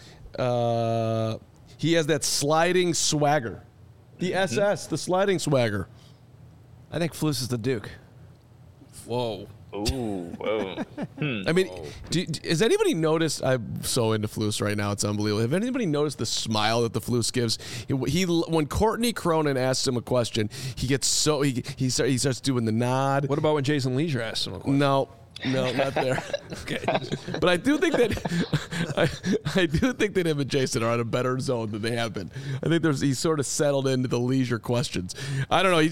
Speaker 3: he has that sliding swagger. The SS, the sliding swagger.
Speaker 4: I think Flus is the Duke.
Speaker 1: Whoa.
Speaker 6: Ooh, whoa.
Speaker 3: I mean, has anybody noticed? I'm so into Flus right now; it's unbelievable. Have anybody noticed the smile that the Flus gives? He when Courtney Cronin asks him a question, he gets so he starts doing the nod.
Speaker 1: What about when Jason Leisure asked him a question?
Speaker 3: No, not there.
Speaker 1: Okay,
Speaker 3: but I do think that him and Jason are on a better zone than they have been. I think he's sort of settled into the Leisure questions. I don't know.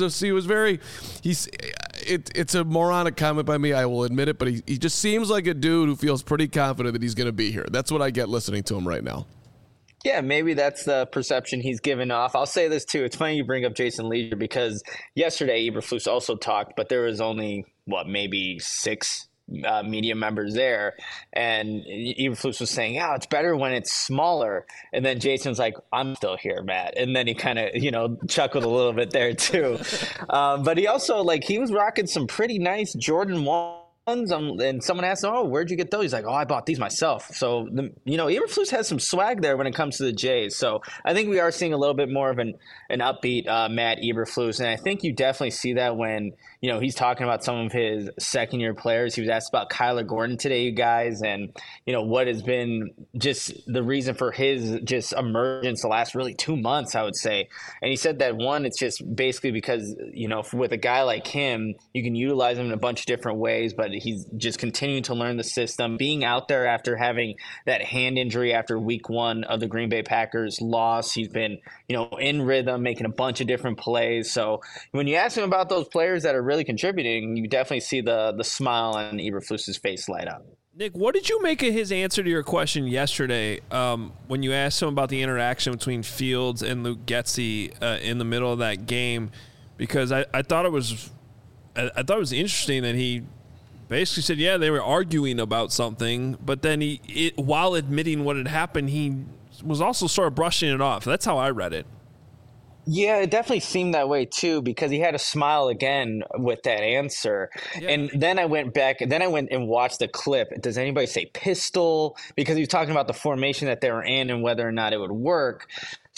Speaker 3: It's a moronic comment by me. I will admit it, but he just seems like a dude who feels pretty confident that he's going to be here. That's what I get listening to him right now.
Speaker 6: Yeah, maybe that's the perception he's given off. I'll say this too. It's funny you bring up Jason Leisure because yesterday Eberflus also talked, but there was only maybe 6 media members there, and Eberflus was saying, it's better when it's smaller. And then Jason's like, I'm still here, Matt. And then he kind of, chuckled a little bit there too. But he also he was rocking some pretty nice Jordan 1s. And someone asked him, where'd you get those? He's like, I bought these myself. So, Eberflus has some swag there when it comes to the Jays. So I think we are seeing a little bit more of an upbeat Matt Eberflus. And I think you definitely see that when, he's talking about some of his second-year players. He was asked about Kyler Gordon today, you guys, and, what has been just the reason for his just emergence the last really 2 months, I would say. And he said that, one, it's just basically because, with a guy like him, you can utilize him in a bunch of different ways, but he's just continuing to learn the system, being out there after having that hand injury after week 1 of the Green Bay Packers loss. He's been, in rhythm, making a bunch of different plays. So when you ask him about those players that are really contributing, you definitely see the smile on Eberflus's face light up.
Speaker 1: Nick, what did you make of his answer to your question yesterday when you asked him about the interaction between Fields and Luke Getsy in the middle of that game? Because I thought it was interesting that he basically said, they were arguing about something, but then while admitting what had happened, he was also sort of brushing it off. That's how I read it.
Speaker 6: Yeah, it definitely seemed that way too, because he had a smile again with that answer. Yeah. And then I went and watched the clip. Does anybody say pistol? Because he was talking about the formation that they were in and whether or not it would work.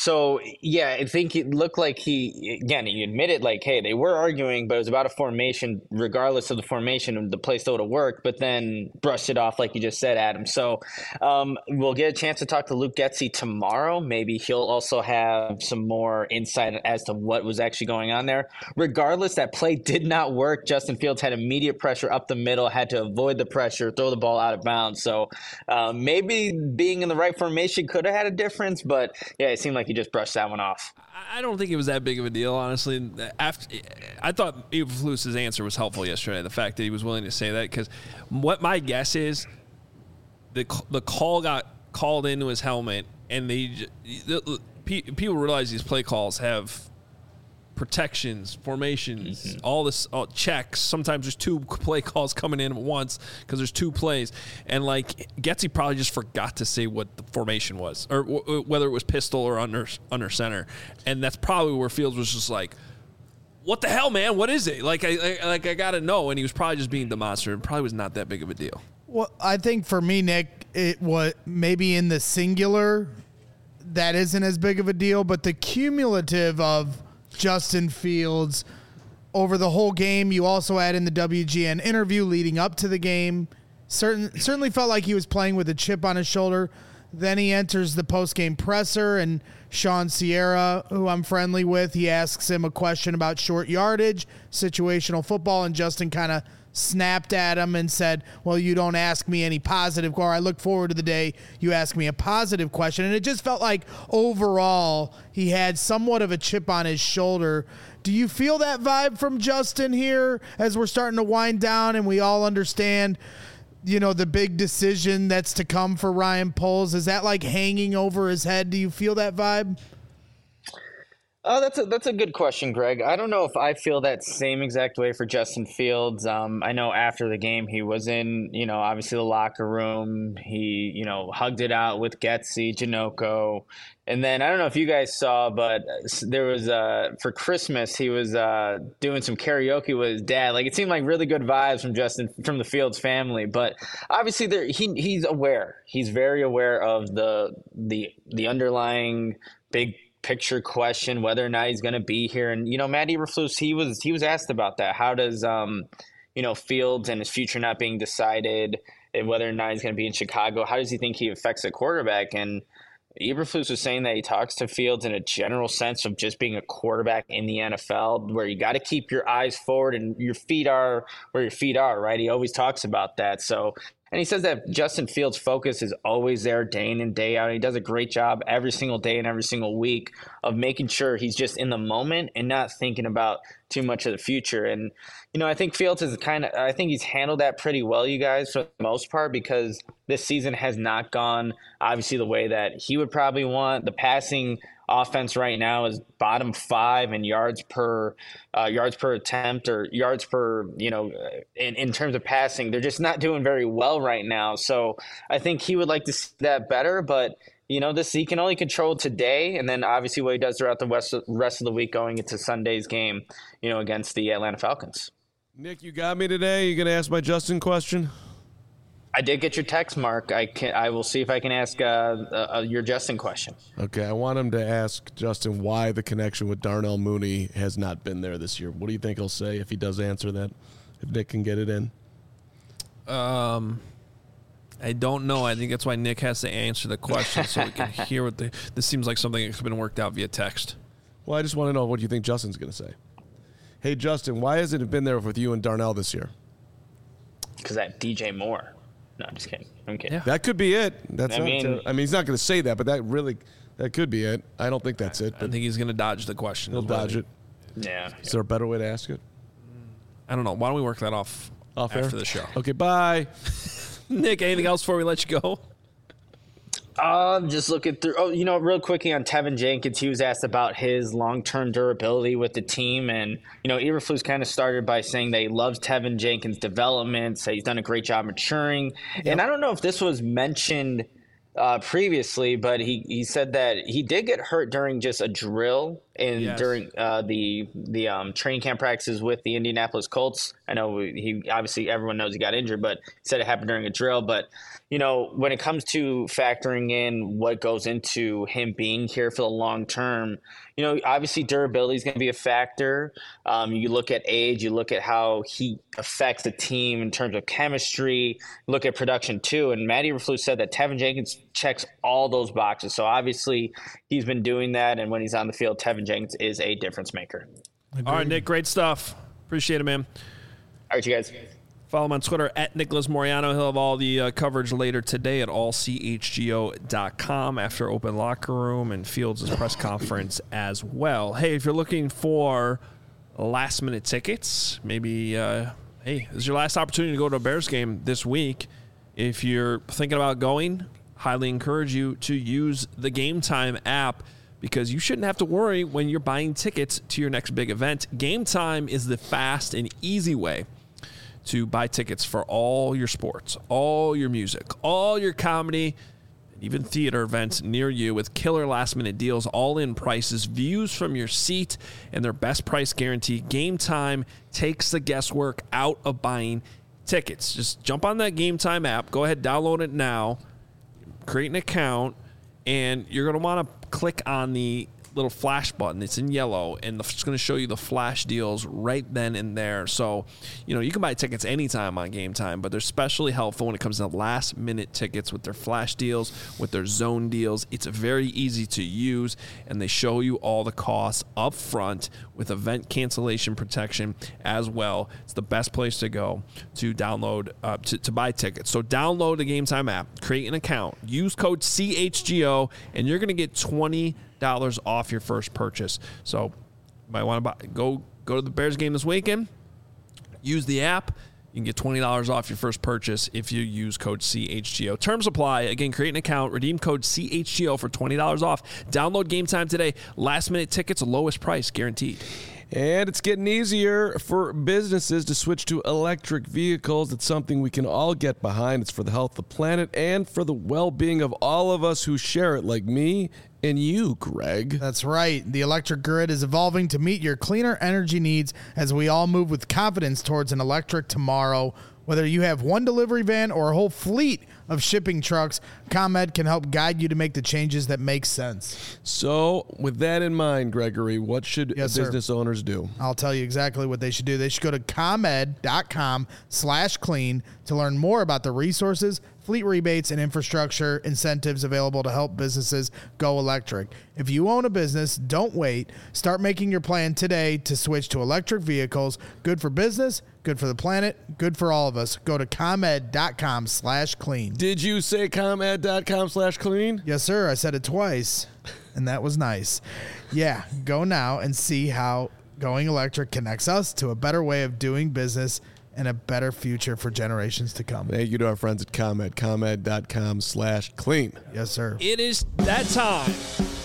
Speaker 6: So, yeah, I think it looked like he admitted, like, hey, they were arguing, but it was about a formation. Regardless of the formation, the play still would have worked, but then brushed it off, like you just said, Adam. So we'll get a chance to talk to Luke Getsy tomorrow. Maybe he'll also have some more insight as to what was actually going on there. Regardless, that play did not work. Justin Fields had immediate pressure up the middle, had to avoid the pressure, throw the ball out of bounds. So maybe being in the right formation could have had a difference, but yeah, it seemed like he just brushed that one off.
Speaker 1: I don't think it was that big of a deal, honestly. I thought Eberflus's answer was helpful yesterday, the fact that he was willing to say that, because what my guess is the call got called into his helmet, and people realize these play calls have protections, formations, all checks. Sometimes there's two play calls coming in at once because there's two plays. And, like, Getsy probably just forgot to say what the formation was, or whether it was pistol or under center. And that's probably where Fields was just like, what the hell, man? What is it? Like, I got to know. And he was probably just being demonstrative. It probably was not that big of a deal.
Speaker 2: Well, I think for me, Nick, it was maybe in the singular that isn't as big of a deal, but the cumulative of Justin Fields over the whole game. You also add in the WGN interview leading up to the game. Certainly felt like he was playing with a chip on his shoulder. Then he enters the post-game presser, and Sean Sierra, who I'm friendly with, he asks him a question about short yardage, situational football, and Justin kind of snapped at him and said, well, you don't ask me any positive, or I look forward to the day you ask me a positive question. And it just felt like overall he had somewhat of a chip on his shoulder. Do you feel that vibe from Justin here as we're starting to wind down and we all understand, you know, the big decision that's to come for Ryan Poles? Is that like hanging over his head? Do you feel that vibe?
Speaker 6: Oh, that's a good question, Greg. I don't know if I feel that same exact way for Justin Fields. I know after the game he was in, obviously the locker room. He, hugged it out with Getsy, Janocko. And then I don't know if you guys saw, but there was for Christmas he was doing some karaoke with his dad. Like, it seemed like really good vibes from the Fields family. But obviously he's aware. He's very aware of the underlying big picture question, whether or not he's going to be here. And Matt Eberflus, he was asked about that. How does Fields and his future not being decided, and whether or not he's going to be in Chicago, how does he think he affects a quarterback? And Eberflus was saying that he talks to Fields in a general sense of just being a quarterback in the NFL, where you got to keep your eyes forward and your feet are where your feet are, right? He always talks about that. So, and he says that Justin Fields' focus is always there day in and day out. He does a great job every single day and every single week of making sure he's just in the moment and not thinking about too much of the future. And, I think Fields I think he's handled that pretty well, you guys, for the most part, because this season has not gone obviously the way that he would probably want. The passing offense right now is bottom 5 in yards per attempt, or yards per, in terms of passing. They're just not doing very well right now. So I think he would like to see that better, but he can only control today, and then obviously what he does throughout the rest of the week going into Sunday's game, against the Atlanta Falcons.
Speaker 3: Nick, you got me today. You going to ask my Justin question?
Speaker 6: I did get your text, Mark. I will see if I can ask your Justin question.
Speaker 3: Okay, I want him to ask Justin why the connection with Darnell Mooney has not been there this year. What do you think he'll say if he does answer that? If Nick can get it in?
Speaker 1: I don't know. I think that's why Nick has to answer the question so we can hear what this seems like something that's been worked out via text.
Speaker 3: Well, I just want to know what you think Justin's going to say. Hey, Justin, why hasn't it been there with you and Darnell this year?
Speaker 6: Because I have DJ Moore. No, I'm just kidding. I'm kidding.
Speaker 1: Yeah.
Speaker 3: That could be it. I mean, he's not going to say that, but that could be it. I don't think that's it.
Speaker 1: I think he's going to dodge the question.
Speaker 3: He'll dodge it.
Speaker 6: Yeah.
Speaker 3: Is there a better way to ask it?
Speaker 1: I don't know. Why don't we work that off after
Speaker 3: air?
Speaker 1: the show?
Speaker 3: Okay, bye.
Speaker 1: Nick, anything else before we let you go?
Speaker 6: Just looking through. Oh, real quickly on Tevin Jenkins, he was asked about his long-term durability with the team, and Eberflus kind of started by saying that he loves Tevin Jenkins' development, so he's done a great job maturing. Yep. And I don't know if this was mentioned previously, but he said that he did get hurt during just a drill during the training camp practices with the Indianapolis Colts. I know he obviously everyone knows he got injured, but he said it happened during a drill. But when it comes to factoring in what goes into him being here for the long term, obviously durability is going to be a factor. You look at age, you look at how he affects the team in terms of chemistry, look at production too. And Matty Eberflus said that Tevin Jenkins checks all those boxes. So obviously he's been doing that. And when he's on the field, Tevin Jenkins is a difference maker.
Speaker 1: Agreed. All right, Nick, great stuff. Appreciate it, man.
Speaker 6: All right, you guys.
Speaker 1: Follow him on Twitter at Nicholas Moriano. He'll have all the coverage later today at allchgo.com after open locker room and Fields' press conference as well. Hey, if you're looking for last-minute tickets, maybe, this is your last opportunity to go to a Bears game this week. If you're thinking about going, highly encourage you to use the Game Time app because you shouldn't have to worry when you're buying tickets to your next big event. Game Time is the fast and easy way to buy tickets for all your sports, all your music, all your comedy, and even theater events near you with killer last-minute deals, all-in prices, views from your seat, and their best price guarantee. Game Time takes the guesswork out of buying tickets. Just jump on that Game Time app. Go ahead, download it now, create an account, and you're going to want to click on the little flash button. It's in yellow, and it's going to show you the flash deals right then and there. So, you can buy tickets anytime on Game Time, but they're especially helpful when it comes to last-minute tickets with their flash deals, with their zone deals. It's very easy to use, and they show you all the costs up front with event cancellation protection as well. It's the best place to go to download, to buy tickets. So download the Game Time app, create an account, use code CHGO, and you're going to get $20 off your first purchase. So you might want to go to the Bears game this weekend. Use the app. You can get $20 off your first purchase if you use code CHGO. Terms apply. Again, create an account. Redeem code CHGO for $20 off. Download Game Time today. Last-minute tickets, lowest price guaranteed.
Speaker 3: And it's getting easier for businesses to switch to electric vehicles. It's something we can all get behind. It's for the health of the planet and for the well-being of all of us who share it, like me and you, Greg.
Speaker 2: That's right. The electric grid is evolving to meet your cleaner energy needs as we all move with confidence towards an electric tomorrow. Whether you have one delivery van or a whole fleet of shipping trucks, ComEd can help guide you to make the changes that make sense.
Speaker 3: So, with that in mind, Gregory, what should business owners do?
Speaker 2: I'll tell you exactly what they should do. They should go to ComEd.com/clean to learn more about the resources, fleet rebates, and infrastructure incentives available to help businesses go electric. If you own a business, don't wait. Start making your plan today to switch to electric vehicles. Good for business, good for the planet, good for all of us. Go to ComEd.com/clean.
Speaker 3: Did you say ComEd.com/clean?
Speaker 2: Yes, sir. I said it twice, and that was nice. Yeah, go now and see how going electric connects us to a better way of doing business and a better future for generations to come.
Speaker 3: Thank you to our friends at ComEd. ComEd.com/clean.
Speaker 2: Yes, sir.
Speaker 1: It is that time.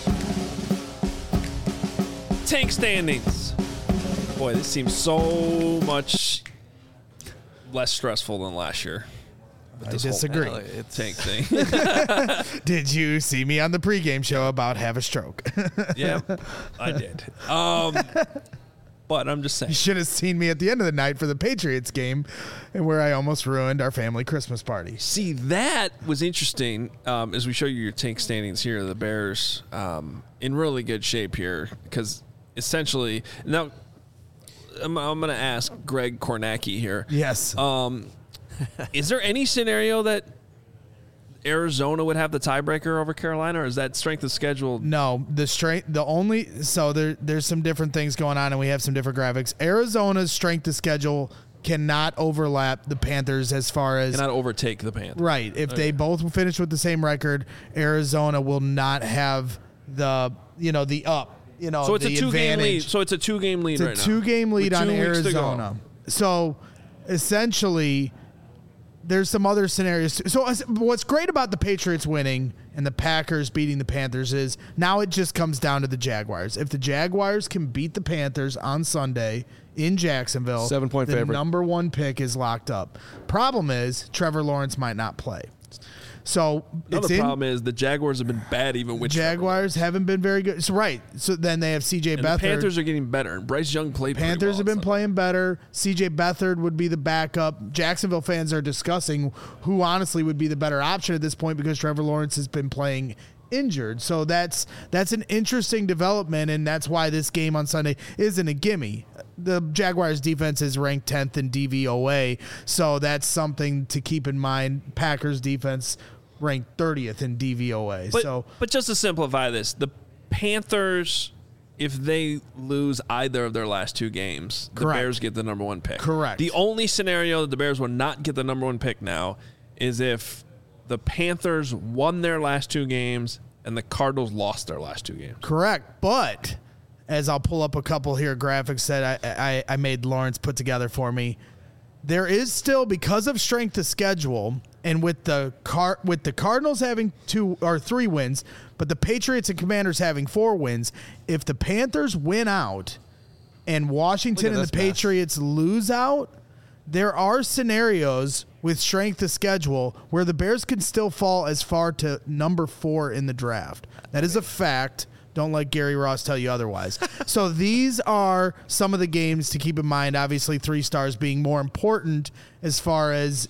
Speaker 1: Tank standings. Boy, this seems so much less stressful than last year.
Speaker 2: I disagree.
Speaker 1: Tank thing.
Speaker 2: Did you see me on the pregame show about have a stroke?
Speaker 1: Yeah, I did. But I'm just saying.
Speaker 2: You should have seen me at the end of the night for the Patriots game and where I almost ruined our family Christmas party.
Speaker 1: See, that was interesting as we show you your tank standings here. The Bears in really good shape here because essentially – now I'm going to ask Greg Kornacki here.
Speaker 2: Yes.
Speaker 1: Is there any scenario that Arizona would have the tiebreaker over Carolina, or is that strength of schedule?
Speaker 2: No, there's some different things going on, and we have some different graphics. Arizona's strength of schedule cannot overlap the Panthers as far as
Speaker 1: cannot overtake the Panthers.
Speaker 2: Right. If they both finish with the same record, Arizona will not have the up.
Speaker 1: So it's a 2-game lead. So it's a 2-game lead right now.
Speaker 2: It's a 2-game lead on Arizona. So essentially, there's some other scenarios. So what's great about the Patriots winning and the Packers beating the Panthers is now it just comes down to the Jaguars. If the Jaguars can beat the Panthers on Sunday in Jacksonville,
Speaker 3: 7-point favorite.
Speaker 2: The number 1 pick is locked up. Problem is Trevor Lawrence might not play. So
Speaker 1: Another problem is the Jaguars have been bad even with
Speaker 2: Jaguars haven't been very good. So right. So then they have C.J. Beathard.
Speaker 1: The Panthers are getting better. And Bryce Young played pretty
Speaker 2: Panthers
Speaker 1: well
Speaker 2: have been
Speaker 1: on
Speaker 2: playing better. C.J. Beathard would be the backup. Jacksonville fans are discussing who honestly would be the better option at this point because Trevor Lawrence has been playing injured. So that's an interesting development, and that's why this game on Sunday isn't a gimme. The Jaguars defense is ranked 10th in DVOA, so that's something to keep in mind. Packers defense ranked 30th in DVOA.
Speaker 1: But just to simplify this, the Panthers, if they lose either of their last two games, the
Speaker 2: Correct.
Speaker 1: Bears get the number one pick.
Speaker 2: Correct.
Speaker 1: The only scenario that the Bears will not get the number one pick now is if the Panthers won their last two games and the Cardinals lost their last two games.
Speaker 2: Correct. But as I'll pull up a couple here graphics that I made Lawrence put together for me, there is still, because of strength of schedule, and with the Cardinals having 2 or 3 wins, but the Patriots and Commanders having 4 wins, if the Panthers win out and Washington and the Patriots lose out, there are scenarios with strength of schedule where the Bears can still fall as far to number 4 in the draft. That is a fact. Don't let Gary Ross tell you otherwise. So these are some of the games to keep in mind. Obviously, 3 stars being more important as far as,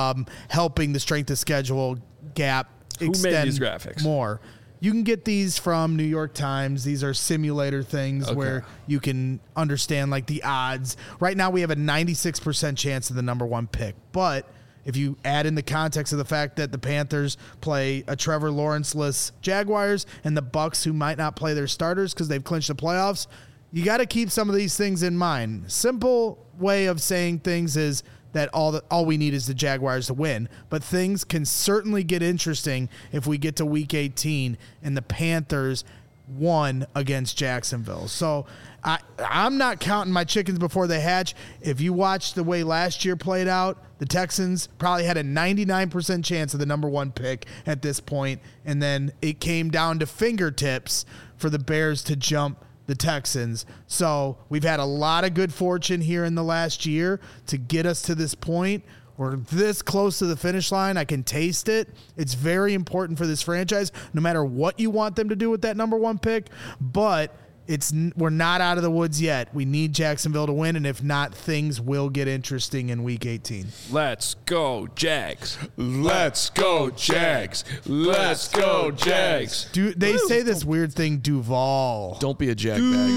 Speaker 2: helping the strength of schedule gap extend
Speaker 1: made these graphics?
Speaker 2: more. You can get these from New York Times. These are simulator things where you can understand like the odds. Right now we have a 96% chance of the number 1 pick. But if you add in the context of the fact that the Panthers play a Trevor Lawrence-less Jaguars and the Bucs, who might not play their starters because they've clinched the playoffs, you got to keep some of these things in mind. Simple way of saying things is that all we need is the Jaguars to win. But things can certainly get interesting if we get to Week 18 and the Panthers won against Jacksonville. So I'm not counting my chickens before they hatch. If you watch the way last year played out, the Texans probably had a 99% chance of the number 1 pick at this point, and then it came down to fingertips for the Bears to jump the Texans. So we've had a lot of good fortune here in the last year to get us to this point. We're this close to the finish line. I can taste it. It's very important for this franchise, no matter what you want them to do with that number 1 pick. But we're not out of the woods yet. We need Jacksonville to win, and if not, things will get interesting in Week 18.
Speaker 1: Let's go, Jags.
Speaker 3: Let's go, Jags. Let's go, Jags.
Speaker 2: They say this weird thing, Duval.
Speaker 3: Don't be a jag bag.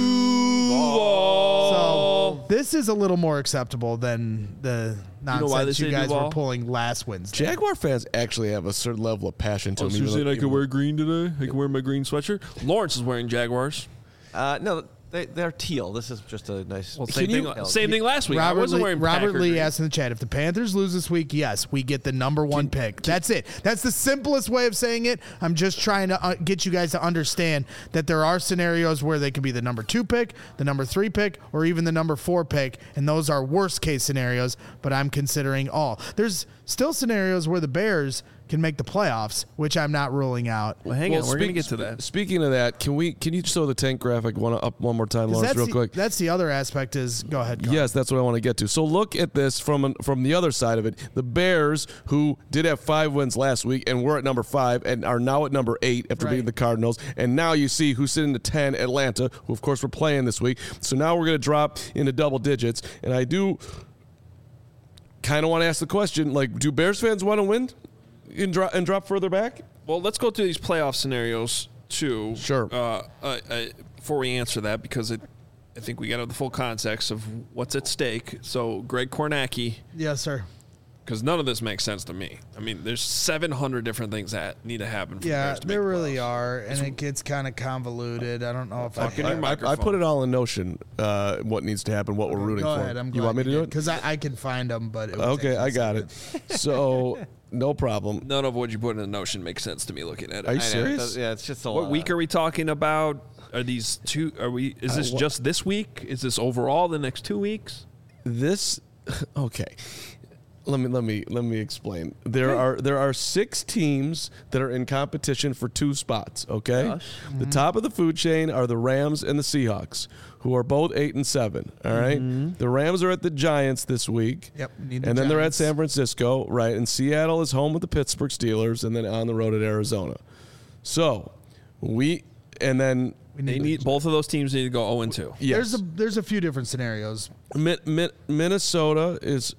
Speaker 2: So this is a little more acceptable than the nonsense you guys were pulling last Wednesday.
Speaker 3: Jaguar fans actually have a certain level of passion to them.
Speaker 1: So you're saying I can wear green today? I can wear my green sweatshirt? Lawrence is wearing Jaguars.
Speaker 4: No, they're teal. This is just a nice.
Speaker 1: Well, same thing last week. I wasn't wearing
Speaker 2: Robert Lee
Speaker 1: green.
Speaker 2: asked in the chat, if the Panthers lose this week, yes, we get the number 1 pick. That's it. That's the simplest way of saying it. I'm just trying to get you guys to understand that there are scenarios where they could be the number 2 pick, the number 3 pick, or even the number 4 pick, and those are worst case scenarios, but I'm considering all. There's still scenarios where the Bears can make the playoffs, which I'm not ruling out.
Speaker 1: Well, hang on. We're going to get to that.
Speaker 3: Speaking of that, can you show the tank graphic up one more time, Lawrence, real quick?
Speaker 2: That's the other aspect is, go ahead, Carl.
Speaker 3: Yes, that's what I want to get to. So look at this from the other side of it. The Bears, who did have 5 wins last week and were at number 5 and are now at number 8 after beating the Cardinals. And now you see who's sitting at 10, Atlanta, who of course we're playing this week. So now we're going to drop into double digits. And I do kind of want to ask the question, like, do Bears fans want to win and drop further back?
Speaker 1: Well, let's go through these playoff scenarios too.
Speaker 3: Sure.
Speaker 1: Before we answer that, because I think we got to have the full context of what's at stake. So, Greg Kornacki.
Speaker 2: Yes, sir.
Speaker 1: Because none of this makes sense to me. I mean, there's 700 different things that need to happen for the Bears to make
Speaker 2: there
Speaker 1: the
Speaker 2: really
Speaker 1: playoffs.
Speaker 2: are, and it gets kind of convoluted. I don't know if
Speaker 3: I put it all in Notion, what needs to happen, what we're rooting
Speaker 2: Go
Speaker 3: for.
Speaker 2: ahead. I'm
Speaker 3: you want me to do it?
Speaker 2: Because I can find them, but it would
Speaker 3: Okay,
Speaker 2: take
Speaker 3: I
Speaker 2: me a
Speaker 3: got
Speaker 2: second.
Speaker 3: it. So, no problem.
Speaker 1: None of what you put in the Notion makes sense to me looking at it.
Speaker 3: Are you serious?
Speaker 4: Yeah, it's just a
Speaker 1: What
Speaker 4: lot.
Speaker 1: week are we talking about? Are these two? Is this just this week? Is this overall the next 2 weeks?
Speaker 3: Okay. Let me explain. There are 6 teams that are in competition for 2 spots. Okay, the top of the food chain are the Rams and the Seahawks, who are both 8-7. All right, the Rams are at the Giants this week.
Speaker 2: Yep,
Speaker 3: and then they're at San Francisco, right? And Seattle is home with the Pittsburgh Steelers, and then on the road at Arizona. So
Speaker 1: They need both of those teams need to go 0-2.
Speaker 3: Yes.
Speaker 2: There's a few different scenarios.
Speaker 3: Minnesota is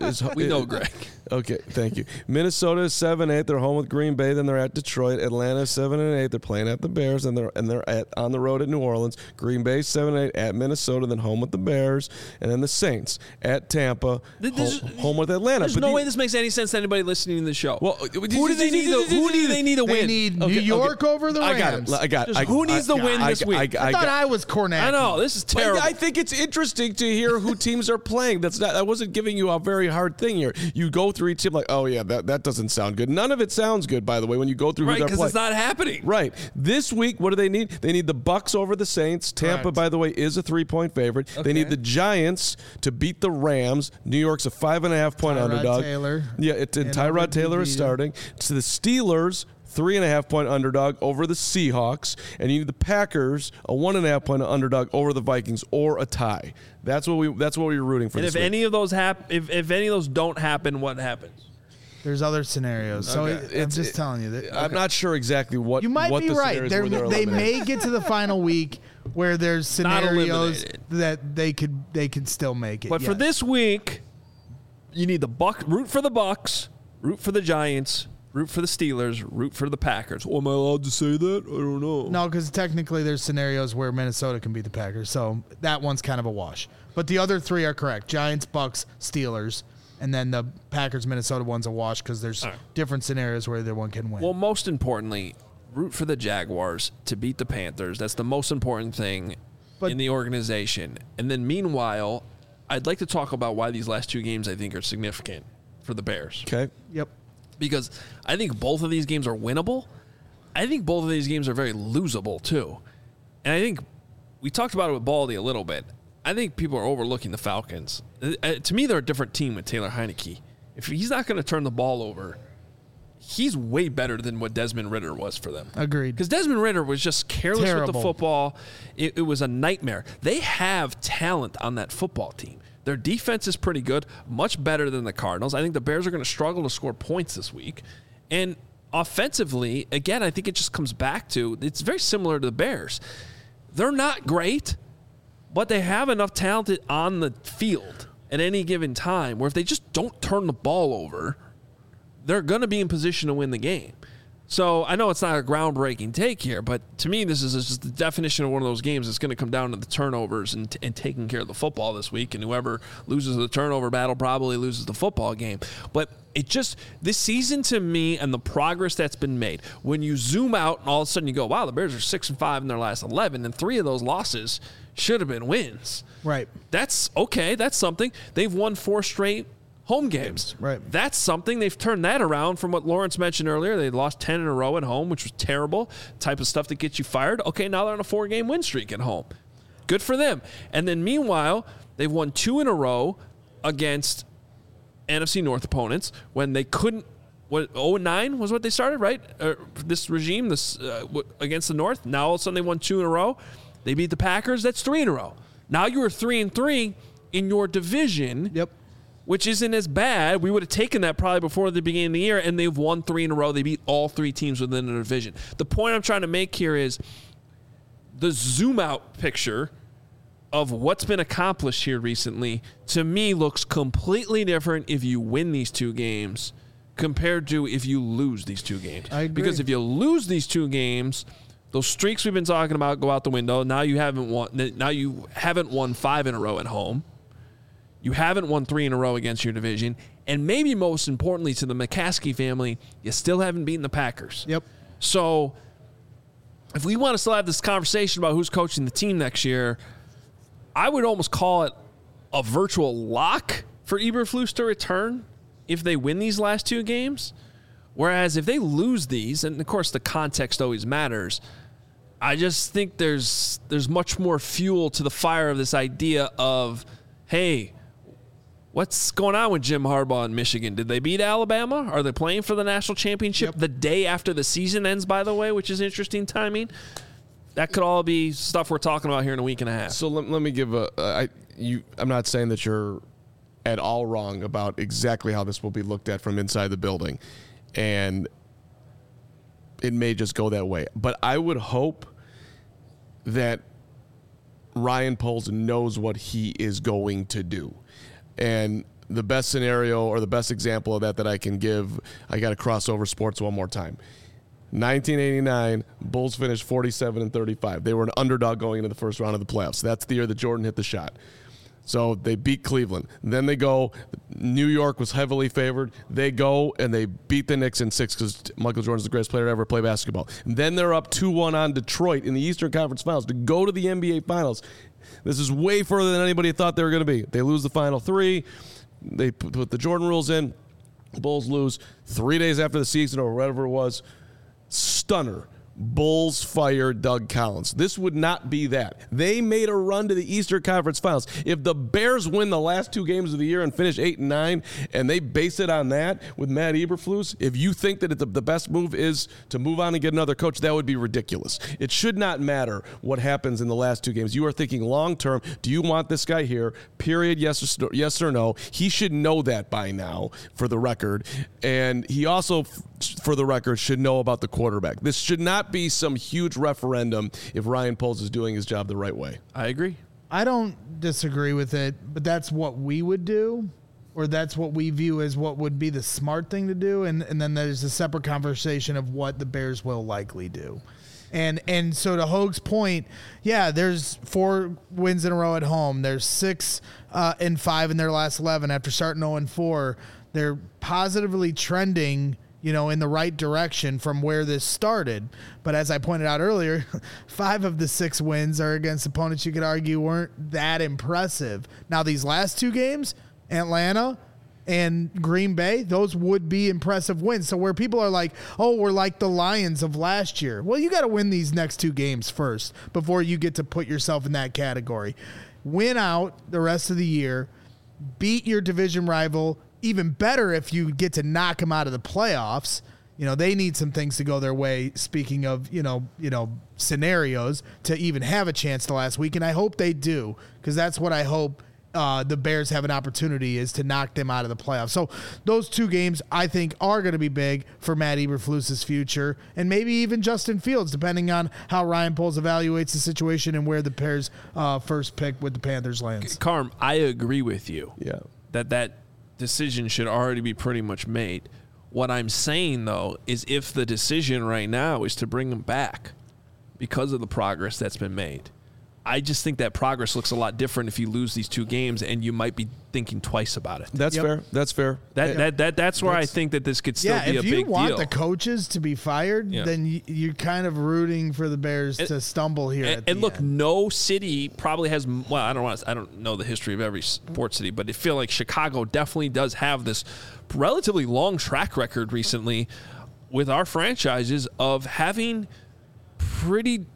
Speaker 1: We know, Greg.
Speaker 3: Okay, thank you. Minnesota is 7-8. They're home with Green Bay. Then they're at Detroit. Atlanta is 7-8. They're playing at the Bears, and they're on the road at New Orleans. Green Bay 7-8 at Minnesota. Then home with the Bears, and then the Saints at Tampa. Home with Atlanta.
Speaker 1: There's no way this makes any sense to anybody listening to the show. Well, who do they need to win?
Speaker 2: They need New York over the Rams.
Speaker 3: I got it.
Speaker 1: Who needs to win this week?
Speaker 2: I thought I was Cornette.
Speaker 1: I know this is terrible.
Speaker 3: I think it's interesting to hear who teams are playing. I wasn't giving you a very hard thing here. You go through each team like, oh yeah, that doesn't sound good. None of it sounds good, by the way, when you go through who they're playing.
Speaker 1: Because it's not happening.
Speaker 3: Right. This week, what do they need? They need the Bucs over the Saints. Tampa, by the way, is a 3-point favorite. Okay. They need the Giants to beat the Rams. New York's a 5.5-point underdog.
Speaker 2: Taylor.
Speaker 3: Yeah, Tyrod Taylor is starting. To the Steelers, 3.5-point underdog over the Seahawks, and you need the Packers, a 1.5-point underdog over the Vikings, or a tie. That's what we're rooting for.
Speaker 1: And
Speaker 3: if
Speaker 1: any of those if any of those don't happen, what happens?
Speaker 2: There's other scenarios. So I'm just telling you that.
Speaker 3: I'm not sure exactly what
Speaker 2: you might
Speaker 3: what
Speaker 2: be
Speaker 3: the
Speaker 2: right. They may get to the final week where there's scenarios that they could still make it.
Speaker 1: But for this week, you need root for the Bucs, root for the Giants, root for the Steelers, root for the Packers. Oh, am I allowed to say that? I don't know.
Speaker 2: No, because technically there's scenarios where Minnesota can beat the Packers, so that one's kind of a wash. But the other 3 are correct. Giants, Bucs, Steelers, and then the Packers-Minnesota one's a wash because there's different scenarios where either one can win.
Speaker 1: Well, most importantly, root for the Jaguars to beat the Panthers. That's the most important thing in the organization. And then meanwhile, I'd like to talk about why these last 2 games I think are significant for the Bears.
Speaker 3: Okay.
Speaker 2: Yep.
Speaker 1: Because I think both of these games are winnable. I think both of these games are very losable, too. And I think we talked about it with Baldy a little bit. I think people are overlooking the Falcons. To me, they're a different team with Taylor Heineke. If he's not going to turn the ball over, he's way better than what Desmond Ridder was for them.
Speaker 2: Agreed.
Speaker 1: Because Desmond Ridder was just careless with the football. It was a nightmare. They have talent on that football team. Their defense is pretty good, much better than the Cardinals. I think the Bears are going to struggle to score points this week. And offensively, again, I think it just comes back to, it's very similar to the Bears. They're not great, but they have enough talent on the field at any given time where if they just don't turn the ball over, they're going to be in position to win the game. So I know it's not a groundbreaking take here, but to me, this is just the definition of one of those games that's going to come down to the turnovers and taking care of the football this week. And whoever loses the turnover battle probably loses the football game. But this season to me and the progress that's been made, when you zoom out and all of a sudden you go, wow, the Bears are 6-5 in their last 11, and 3 of those losses should have been wins.
Speaker 2: Right.
Speaker 1: That's okay. That's something. They've won 4 straight home games.
Speaker 2: Right.
Speaker 1: That's something. They've turned that around from what Lawrence mentioned earlier. They lost 10 in a row at home, which was terrible. Type of stuff that gets you fired. Okay, now they're on a 4-game win streak at home. Good for them. And then meanwhile, they've won 2 in a row against NFC North opponents when they couldn't. 0-9 was what they started, right? This regime, against the North. Now all of a sudden they won 2 in a row. They beat the Packers. That's 3 in a row. Now you are 3-3 in your division.
Speaker 2: Yep.
Speaker 1: Which isn't as bad. We would have taken that probably before the beginning of the year, and they've won 3 in a row. They beat all 3 teams within the division. The point I'm trying to make here is the zoom-out picture of what's been accomplished here recently, to me, looks completely different if you win these 2 games compared to if you lose these 2 games.
Speaker 2: I agree.
Speaker 1: Because if you lose these 2 games, those streaks we've been talking about go out the window. Now you haven't won 5 in a row at home. You haven't won 3 in a row against your division. And maybe most importantly to the McCaskey family, you still haven't beaten the Packers.
Speaker 2: Yep.
Speaker 1: So if we want to still have this conversation about who's coaching the team next year, I would almost call it a virtual lock for Eberflus to return if they win these last 2 games. Whereas if they lose these, and of course the context always matters, I just think there's much more fuel to the fire of this idea of, hey, What's going on with Jim Harbaugh in Michigan? Did they beat Alabama? Are they playing for the national championship the day after the season ends, by the way, which is interesting timing? That could all be stuff we're talking about here in a week and a half.
Speaker 3: So let me give I'm not saying that you're at all wrong about exactly how this will be looked at from inside the building. And it may just go that way. But I would hope that Ryan Poles knows what he is going to do. And the best scenario or the best example of that I can give, I got to cross over sports one more time. 1989, Bulls finished 47-35. They were an underdog going into the first round of the playoffs. That's the year that Jordan hit the shot. So they beat Cleveland. Then they go, New York was heavily favored. They go and they beat the Knicks in 6 because Michael Jordan's the greatest player to ever play basketball. And then they're up 2-1 on Detroit in the Eastern Conference Finals to go to the NBA Finals. This is way further than anybody thought they were going to be. They lose the Final 3. They put the Jordan rules in. The Bulls lose 3 days after the season or whatever it was. Stunner. Bulls fire Doug Collins. This would not be that. They made a run to the Eastern Conference Finals. If the Bears win the last 2 games of the year and finish 8-9, and they base it on that with Matt Eberflus, if you think that the best move is to move on and get another coach, that would be ridiculous. It should not matter what happens in the last 2 games. You are thinking long term. Do you want this guy here? Period. Yes or no. He should know that by now, for the record. And he also, for the record, should know about the quarterback. This should not be some huge referendum if Ryan Poles is doing his job the right way.
Speaker 1: I agree.
Speaker 2: I don't disagree with it, but that's what we would do, or that's what we view as what would be the smart thing to do. And then there's a separate conversation of what the Bears will likely do. And so to Hoag's point, yeah, there's 4 wins in a row at home. There's 6-5 in their last 11 after starting 0-4. They're positively trending, in the right direction from where this started. But as I pointed out earlier, 5 of the 6 wins are against opponents you could argue weren't that impressive. Now, these last 2 games, Atlanta and Green Bay, those would be impressive wins. So where people are like, oh, we're like the Lions of last year. Well, you got to win these next 2 games first before you get to put yourself in that category. Win out the rest of the year, beat your division rival. Even better if you get to knock them out of the playoffs. They need some things to go their way, speaking of, scenarios, to even have a chance the last week. And I hope they do, because that's what I hope the Bears have an opportunity, is to knock them out of the playoffs. So those 2 games, I think, are going to be big for Matt Eberflus's future, and maybe even Justin Fields, depending on how Ryan Poles evaluates the situation and where the Bears' first pick with the Panthers lands.
Speaker 1: Carm, I agree with you.
Speaker 3: Yeah.
Speaker 1: That decision should already be pretty much made. What I'm saying, though, is if the decision right now is to bring them back because of the progress that's been made, I just think that progress looks a lot different if you lose these 2 games, and you might be thinking twice about it.
Speaker 3: That's fair. That's fair.
Speaker 1: That's where I think that this could still be a big deal.
Speaker 2: If you want the coaches to be fired, then you're kind of rooting for the Bears to stumble here.
Speaker 1: And look, no city probably has. Well, I don't know the history of every sports city, but I feel like Chicago definitely does have this relatively long track record recently with our franchises of having pretty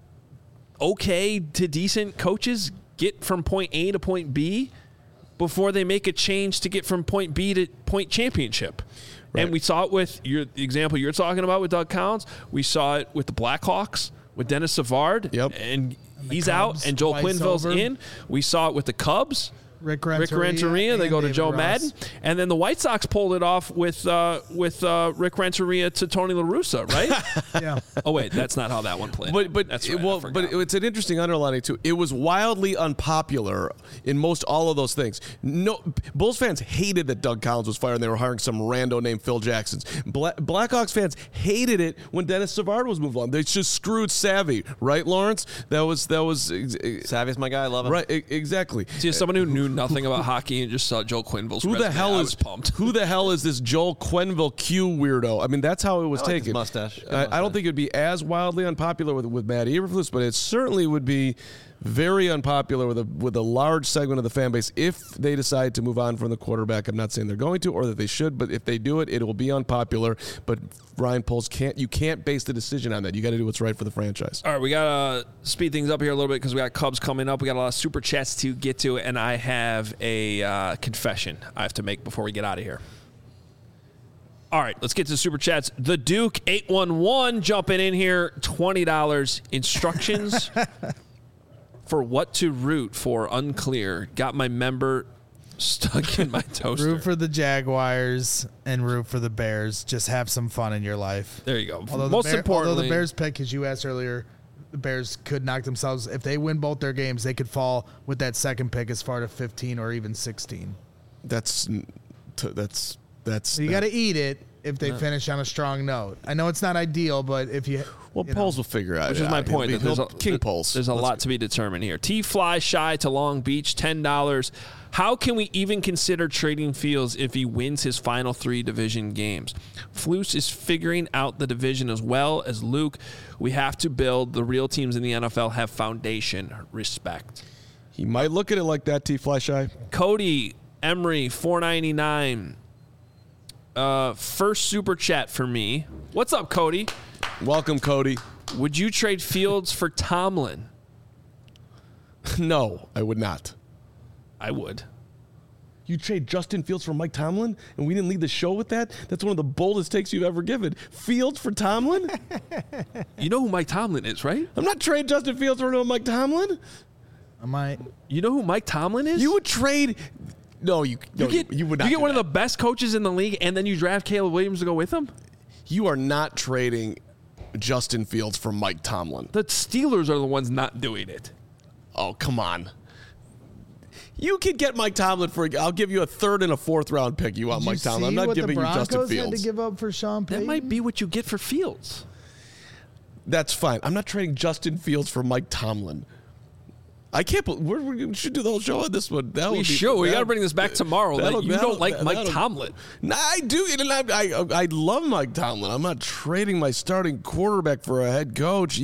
Speaker 1: okay to decent coaches get from point A to point B before they make a change to get from point B to point championship. Right. And we saw it with the example you're talking about with Doug Collins. We saw it with the Blackhawks with Dennis Savard.
Speaker 3: Yep.
Speaker 1: And he's out, and Joel Quenneville's in. We saw it with the Cubs. Rick Renteria. They go to Joe Madden. And then the White Sox pulled it off with Rick Renteria to Tony La Russa, right?
Speaker 2: Yeah.
Speaker 1: Oh, wait, that's not how that one played.
Speaker 3: But
Speaker 1: that's right,
Speaker 3: but it's an interesting underlining, too. It was wildly unpopular in most all of those things. No, Bulls fans hated that Doug Collins was fired and they were hiring some rando named Phil Jackson. Blackhawks fans hated it when Dennis Savard was moved on. They just screwed Savvy, right, Lawrence? That was
Speaker 4: Savvy's my guy. I love him.
Speaker 3: Right, exactly.
Speaker 1: See, as someone who knew nothing about hockey and just saw Joel Quenneville's resume, I was pumped.
Speaker 3: Who the hell is this Joel Quenneville Q weirdo? I mean, that's how it was taken.
Speaker 4: His mustache.
Speaker 3: I don't think it would be as wildly unpopular with Matt Eberflus, but it certainly would be very unpopular with a large segment of the fan base if they decide to move on from the quarterback. I'm not saying they're going to or that they should, but if they do it, it will be unpopular. But Ryan Poles you can't base the decision on that. You got to do what's right for the franchise.
Speaker 1: All right, we got to speed things up here a little bit because we got Cubs coming up. We got a lot of super chats to get to, and I have a confession I have to make before we get out of here. All right, let's get to the super chats. The Duke 811 jumping in here, $20 instructions for what to root for unclear. Got my member stuck in my toaster.
Speaker 2: Root for the Jaguars and root for the Bears. Just have some fun in your life.
Speaker 1: There you go.
Speaker 2: Although the Bears pick, as you asked earlier, the Bears could knock themselves. If they win both their games, they could fall with that second pick as far to 15 or even 16.
Speaker 3: That's
Speaker 2: So you got to eat it if they finish on a strong note. I know it's not ideal, but if you
Speaker 3: Poles will figure out.
Speaker 1: Which is my point.
Speaker 3: King Poles.
Speaker 1: There's a lot to be determined here. T-Fly Shy to Long Beach, $10. How can we even consider trading Fields if he wins his final 3 division games? Flus is figuring out the division as well as Luke. We have to build. The real teams in the NFL have foundation. Respect.
Speaker 3: He might look at it like that, T-Fly Shy.
Speaker 1: Cody Emery, $4.99. First super chat for me. What's up, Cody?
Speaker 3: Welcome, Cody.
Speaker 1: Would you trade Fields for Tomlin?
Speaker 3: No, I would not.
Speaker 1: I would.
Speaker 3: You trade Justin Fields for Mike Tomlin, and we didn't lead the show with that? That's one of the boldest takes you've ever given. Fields for Tomlin?
Speaker 1: You know who Mike Tomlin is, right?
Speaker 3: I'm not trading Justin Fields for Mike Tomlin.
Speaker 2: I might.
Speaker 1: You know who Mike Tomlin is?
Speaker 3: You would trade... No, you would not.
Speaker 1: You get one of the best coaches in the league, and then you draft Caleb Williams to go with him?
Speaker 3: You are not trading Justin Fields for Mike Tomlin.
Speaker 1: The Steelers are the ones not doing it.
Speaker 3: Oh, come on. You could get Mike Tomlin for... I'll give you a 3rd and a 4th round pick. You want Mike Tomlin. I'm not giving you Justin Fields.
Speaker 2: Had to give up for Sean Payton?
Speaker 1: That might be what you get for Fields.
Speaker 3: That's fine. I'm not trading Justin Fields for Mike Tomlin. I can't believe we should do the whole show on this one.
Speaker 1: We got to bring this back tomorrow. You don't like Mike Tomlin.
Speaker 3: Nah, I do. And I love Mike Tomlin. I'm not trading my starting quarterback for a head coach.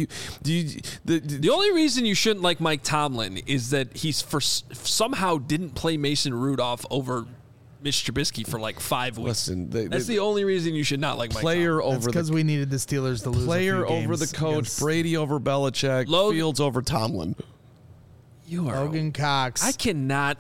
Speaker 1: The only reason you shouldn't like Mike Tomlin is that somehow didn't play Mason Rudolph over Mitch Trubisky for like 5 weeks.
Speaker 3: Listen,
Speaker 1: that's the only reason you should not like Mike Tomlin.
Speaker 2: Because we needed the Steelers to lose.
Speaker 3: Player over the coach. Brady over Belichick. Fields over Tomlin.
Speaker 1: You are
Speaker 2: Logan Cox.
Speaker 1: I cannot.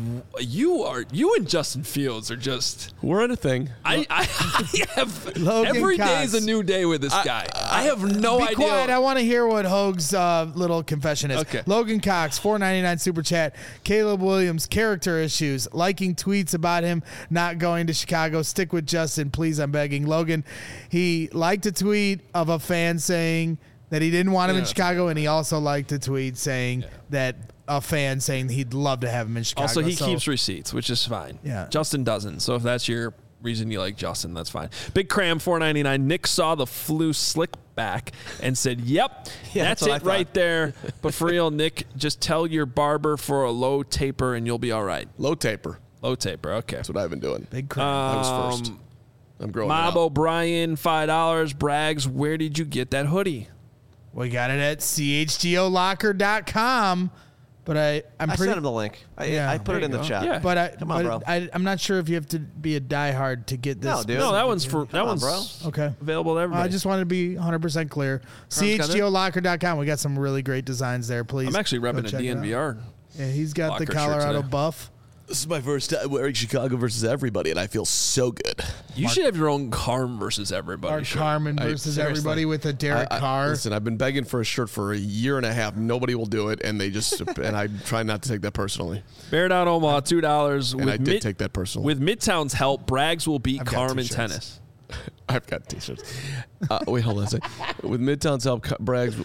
Speaker 1: You and Justin Fields are just.
Speaker 3: We're in a thing.
Speaker 1: I have
Speaker 2: Logan
Speaker 1: every
Speaker 2: Cox.
Speaker 1: day is a new day with this guy. I have no idea.
Speaker 2: Be quiet. I want to hear what Hoag's little confession is.
Speaker 1: Okay.
Speaker 2: Logan Cox, $4.99 super chat. Caleb Williams, character issues, liking tweets about him not going to Chicago. Stick with Justin, please. I'm begging. Logan, he liked a tweet of a fan saying that he didn't want him in Chicago, and he also liked a tweet saying that a fan saying he'd love to have him in Chicago.
Speaker 1: Also, he keeps receipts, which is fine.
Speaker 2: Yeah.
Speaker 1: Justin doesn't. So if that's your reason you like Justin, that's fine. Big Cram, $4.99. Nick saw the flu slick back and said, yep, that's it right there. But for real, Nick, just tell your barber for a low taper and you'll be all right.
Speaker 3: Low taper.
Speaker 1: Low taper, okay.
Speaker 3: That's what I've been doing.
Speaker 2: Big Cram.
Speaker 3: I was first. I'm growing
Speaker 1: Mob
Speaker 3: up.
Speaker 1: O'Brien, $5. Braggs, where did you get that hoodie?
Speaker 2: We got it at chgolocker.com. But I
Speaker 4: sent him the link. I put it in the chat.
Speaker 1: Yeah.
Speaker 2: But
Speaker 4: Come on, bro.
Speaker 2: I'm not sure if you have to be a diehard to get this.
Speaker 4: No, dude.
Speaker 1: No, that one's bro.
Speaker 2: Okay.
Speaker 1: Available to everybody.
Speaker 2: I just wanted to be 100% clear. chgolocker.com. We got some really great designs there. Please.
Speaker 1: I'm actually repping a
Speaker 2: check it out.
Speaker 1: DNVR.
Speaker 2: Yeah, he's got
Speaker 1: Locker
Speaker 2: the
Speaker 1: shirt
Speaker 2: Colorado
Speaker 1: today.
Speaker 2: buff.
Speaker 3: This is my first time wearing Chicago versus everybody, and I feel so good.
Speaker 1: You should have your own Carm versus everybody.
Speaker 2: Or Carmen versus
Speaker 3: seriously.
Speaker 2: everybody with a Derek Carr.
Speaker 3: Listen, I've been begging for a shirt for a year and a half. Nobody will do it, and they just and I try not to take that personally.
Speaker 1: Bear Down Omaha, $2.
Speaker 3: And I did take that personally.
Speaker 1: With Midtown's help, Braggs will beat
Speaker 2: I've got
Speaker 1: Carm in
Speaker 2: t-shirts.
Speaker 1: tennis.
Speaker 3: I've got T-shirts. Wait, hold on a second. With Midtown's help, Braggs.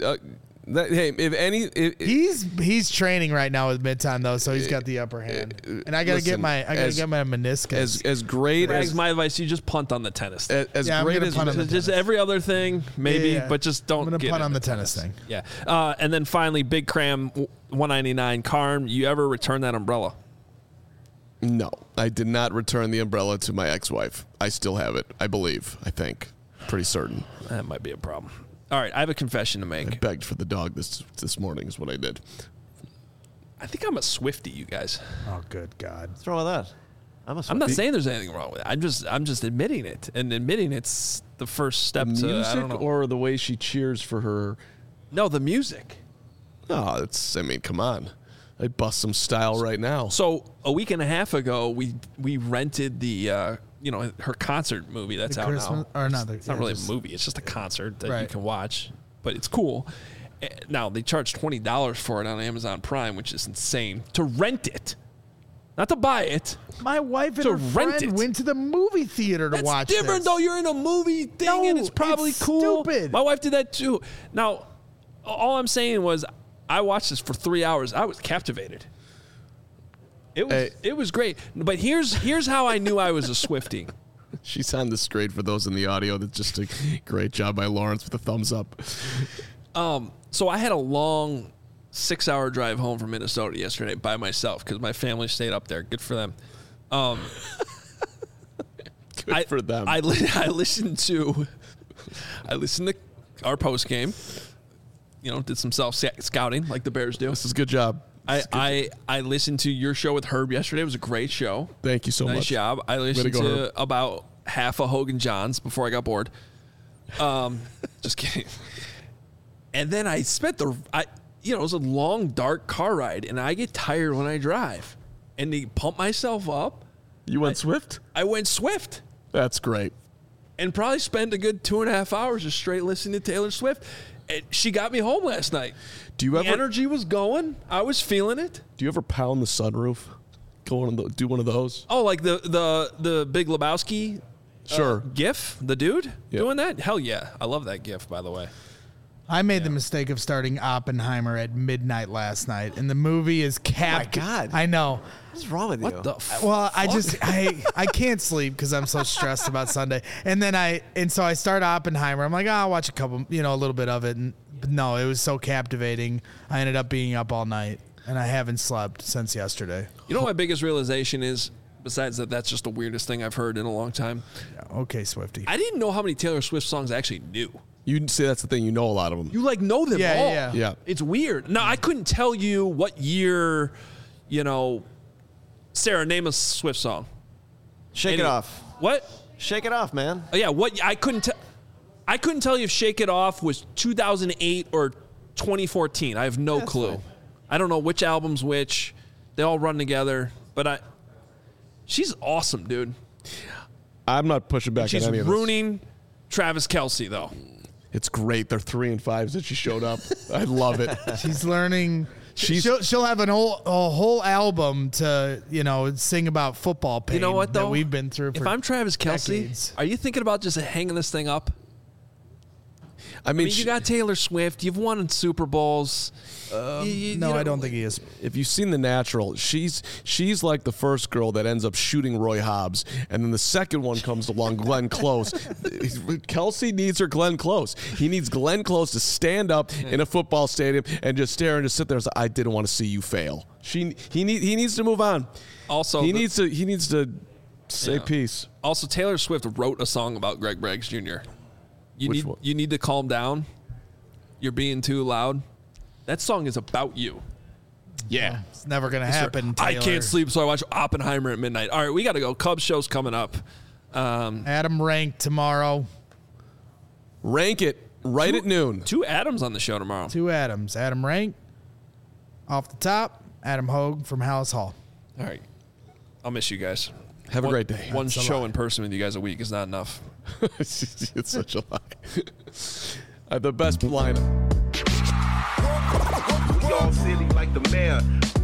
Speaker 2: He's training right now with Midtown though, so he's got the upper hand. And I gotta get my meniscus.
Speaker 3: As great
Speaker 1: Braggs,
Speaker 3: as
Speaker 1: my advice: you just punt on the tennis.
Speaker 3: as
Speaker 2: I'm
Speaker 3: great
Speaker 2: gonna
Speaker 3: as
Speaker 2: punt on the
Speaker 1: Just every other thing, maybe,
Speaker 2: Yeah.
Speaker 1: but just don't.
Speaker 2: I'm gonna
Speaker 1: get
Speaker 2: punt
Speaker 1: into
Speaker 2: on the tennis thing.
Speaker 1: Yeah, and then finally, Big Cram, $199. Carm, you ever return that umbrella?
Speaker 3: No, I did not return the umbrella to my ex-wife. I still have it. I believe. I think. Pretty certain.
Speaker 1: That might be a problem. All right, I have a confession to
Speaker 3: I
Speaker 1: make.
Speaker 3: begged for the dog this morning is what I did.
Speaker 1: I think I'm a Swiftie, you guys.
Speaker 2: Oh, good God.
Speaker 4: What's wrong with that?
Speaker 1: I'm not saying there's anything wrong with it. I'm just admitting it, and admitting it's the first step to I
Speaker 3: Music
Speaker 1: don't know.
Speaker 3: or the way she cheers for her.
Speaker 1: No, the music.
Speaker 3: Oh, I mean, come on. I'd bust some style right now.
Speaker 1: So a week and a half ago, we rented the her concert movie that's
Speaker 2: The
Speaker 1: out
Speaker 2: Christmas-
Speaker 1: now.
Speaker 2: or not the-
Speaker 1: it's not
Speaker 2: yeah,
Speaker 1: really
Speaker 2: just-
Speaker 1: a movie. It's just a concert that you
Speaker 2: Right.
Speaker 1: can watch, but it's cool. Now they charge $20 for it on Amazon Prime, which is insane to rent it, not to buy it.
Speaker 2: My wife and
Speaker 1: To
Speaker 2: her
Speaker 1: rent
Speaker 2: friend
Speaker 1: it.
Speaker 2: went to the movie theater to
Speaker 1: That's
Speaker 2: watch
Speaker 1: different
Speaker 2: this.
Speaker 1: though. You're in a movie thing, and
Speaker 2: No,
Speaker 1: it's probably
Speaker 2: it's
Speaker 1: cool.
Speaker 2: stupid.
Speaker 1: My wife did that too. Now, all I'm saying was, I watched this for 3 hours. I was captivated. It was great. But here's how I knew I was a Swiftie.
Speaker 3: She's on the straight for those in the audio. That's just a great job by Lawrence with a thumbs up.
Speaker 1: So I had a long 6-hour drive home from Minnesota yesterday by myself because my family stayed up there. Good for them.
Speaker 3: Good for them.
Speaker 1: I listened to our post game. Did some self scouting like the Bears do.
Speaker 3: This is a good job.
Speaker 1: I listened to your show with Herb yesterday. It was a great show.
Speaker 3: Thank you so
Speaker 1: Nice
Speaker 3: much.
Speaker 1: job. I listened
Speaker 3: go,
Speaker 1: to
Speaker 3: Herb.
Speaker 1: about half of Hogan Johns before I got bored. Just kidding. And then I spent it was a long, dark car ride, and I get tired when I drive. And to pump myself up,
Speaker 3: You went Swift?
Speaker 1: I went Swift.
Speaker 3: That's great.
Speaker 1: And probably spent a good 2.5 hours just straight listening to Taylor Swift. And she got me home last night.
Speaker 3: Do
Speaker 1: The energy was going. I was feeling it.
Speaker 3: Do you ever pound the sunroof? Do one of those?
Speaker 1: Oh, like the Big Lebowski
Speaker 3: Sure.
Speaker 1: gif? The dude
Speaker 3: Yeah.
Speaker 1: doing that? Hell yeah. I love that gif, by the way.
Speaker 2: I made the mistake of starting Oppenheimer at midnight last night, and the movie is capped.
Speaker 4: my God.
Speaker 2: I know.
Speaker 4: What's wrong with you?
Speaker 1: What the f-
Speaker 2: Well, I can't sleep because I'm so stressed about Sunday. And so I start Oppenheimer. I'm like, I'll watch a little bit of it. But no, it was so captivating. I ended up being up all night, and I haven't slept since yesterday.
Speaker 1: You know what my biggest realization is, besides that's just the weirdest thing I've heard in a long time?
Speaker 2: Yeah, okay, Swiftie.
Speaker 1: I didn't know how many Taylor Swift songs I actually knew.
Speaker 3: You say that's the thing. You know a lot of them.
Speaker 1: You know them
Speaker 2: Yeah,
Speaker 1: all.
Speaker 2: yeah.
Speaker 3: Yeah.
Speaker 1: It's weird. Now, I couldn't tell you what year, Sarah, name a Swift song.
Speaker 4: Shake it off.
Speaker 1: What?
Speaker 4: Shake it off, man.
Speaker 1: Oh, yeah, what? I couldn't tell you if Shake It Off was 2008 or 2014. I have no clue.
Speaker 4: fine.
Speaker 1: I don't know which album's which. They all run together. But she's awesome, dude.
Speaker 3: I'm not pushing back
Speaker 1: She's
Speaker 3: on any of this.
Speaker 1: ruining Travis Kelce, though.
Speaker 3: It's great. They're 3 and 5s that she showed up. I love it.
Speaker 2: She's learning. She'll have a whole album to sing about football pain.
Speaker 1: You know what, though?
Speaker 2: That we've been through.
Speaker 1: If
Speaker 2: For
Speaker 1: I'm Travis Kelce,
Speaker 2: decades.
Speaker 1: are you thinking about just hanging this thing up?
Speaker 3: I mean,
Speaker 1: You got Taylor Swift. You've won Super Bowls.
Speaker 2: No, I don't think he is.
Speaker 3: if you've seen The Natural, she's like the first girl that ends up shooting Roy Hobbs, and then the second one comes along, Glenn Close. Kelsey needs her Glenn Close. He needs Glenn Close to stand up in a football stadium and just stare and just sit there and say, "I didn't want to see you fail." He needs to move on.
Speaker 1: Also,
Speaker 3: He needs to say peace.
Speaker 1: Also, Taylor Swift wrote a song about Greg Braggs Jr.
Speaker 3: Which one?
Speaker 1: You need to calm down. You're being too loud. That song is about you.
Speaker 3: Yeah.
Speaker 2: It's never gonna happen.
Speaker 1: I
Speaker 2: Taylor.
Speaker 1: can't sleep, so I watch Oppenheimer at midnight. All right, we got to go. Cubs show's coming up.
Speaker 2: Adam Rank tomorrow.
Speaker 3: Rank it right at noon.
Speaker 1: 2 Adams on the show tomorrow.
Speaker 2: 2 Adams. Adam Rank off the top. Adam Hogue from Hallis Hall.
Speaker 1: All right. I'll miss you guys.
Speaker 3: Have a great day.
Speaker 1: One
Speaker 2: That's a
Speaker 1: show
Speaker 2: lot.
Speaker 1: in person with you guys a week is not enough.
Speaker 3: It's such a lie. The best lineup.
Speaker 7: We all silly like the mayor.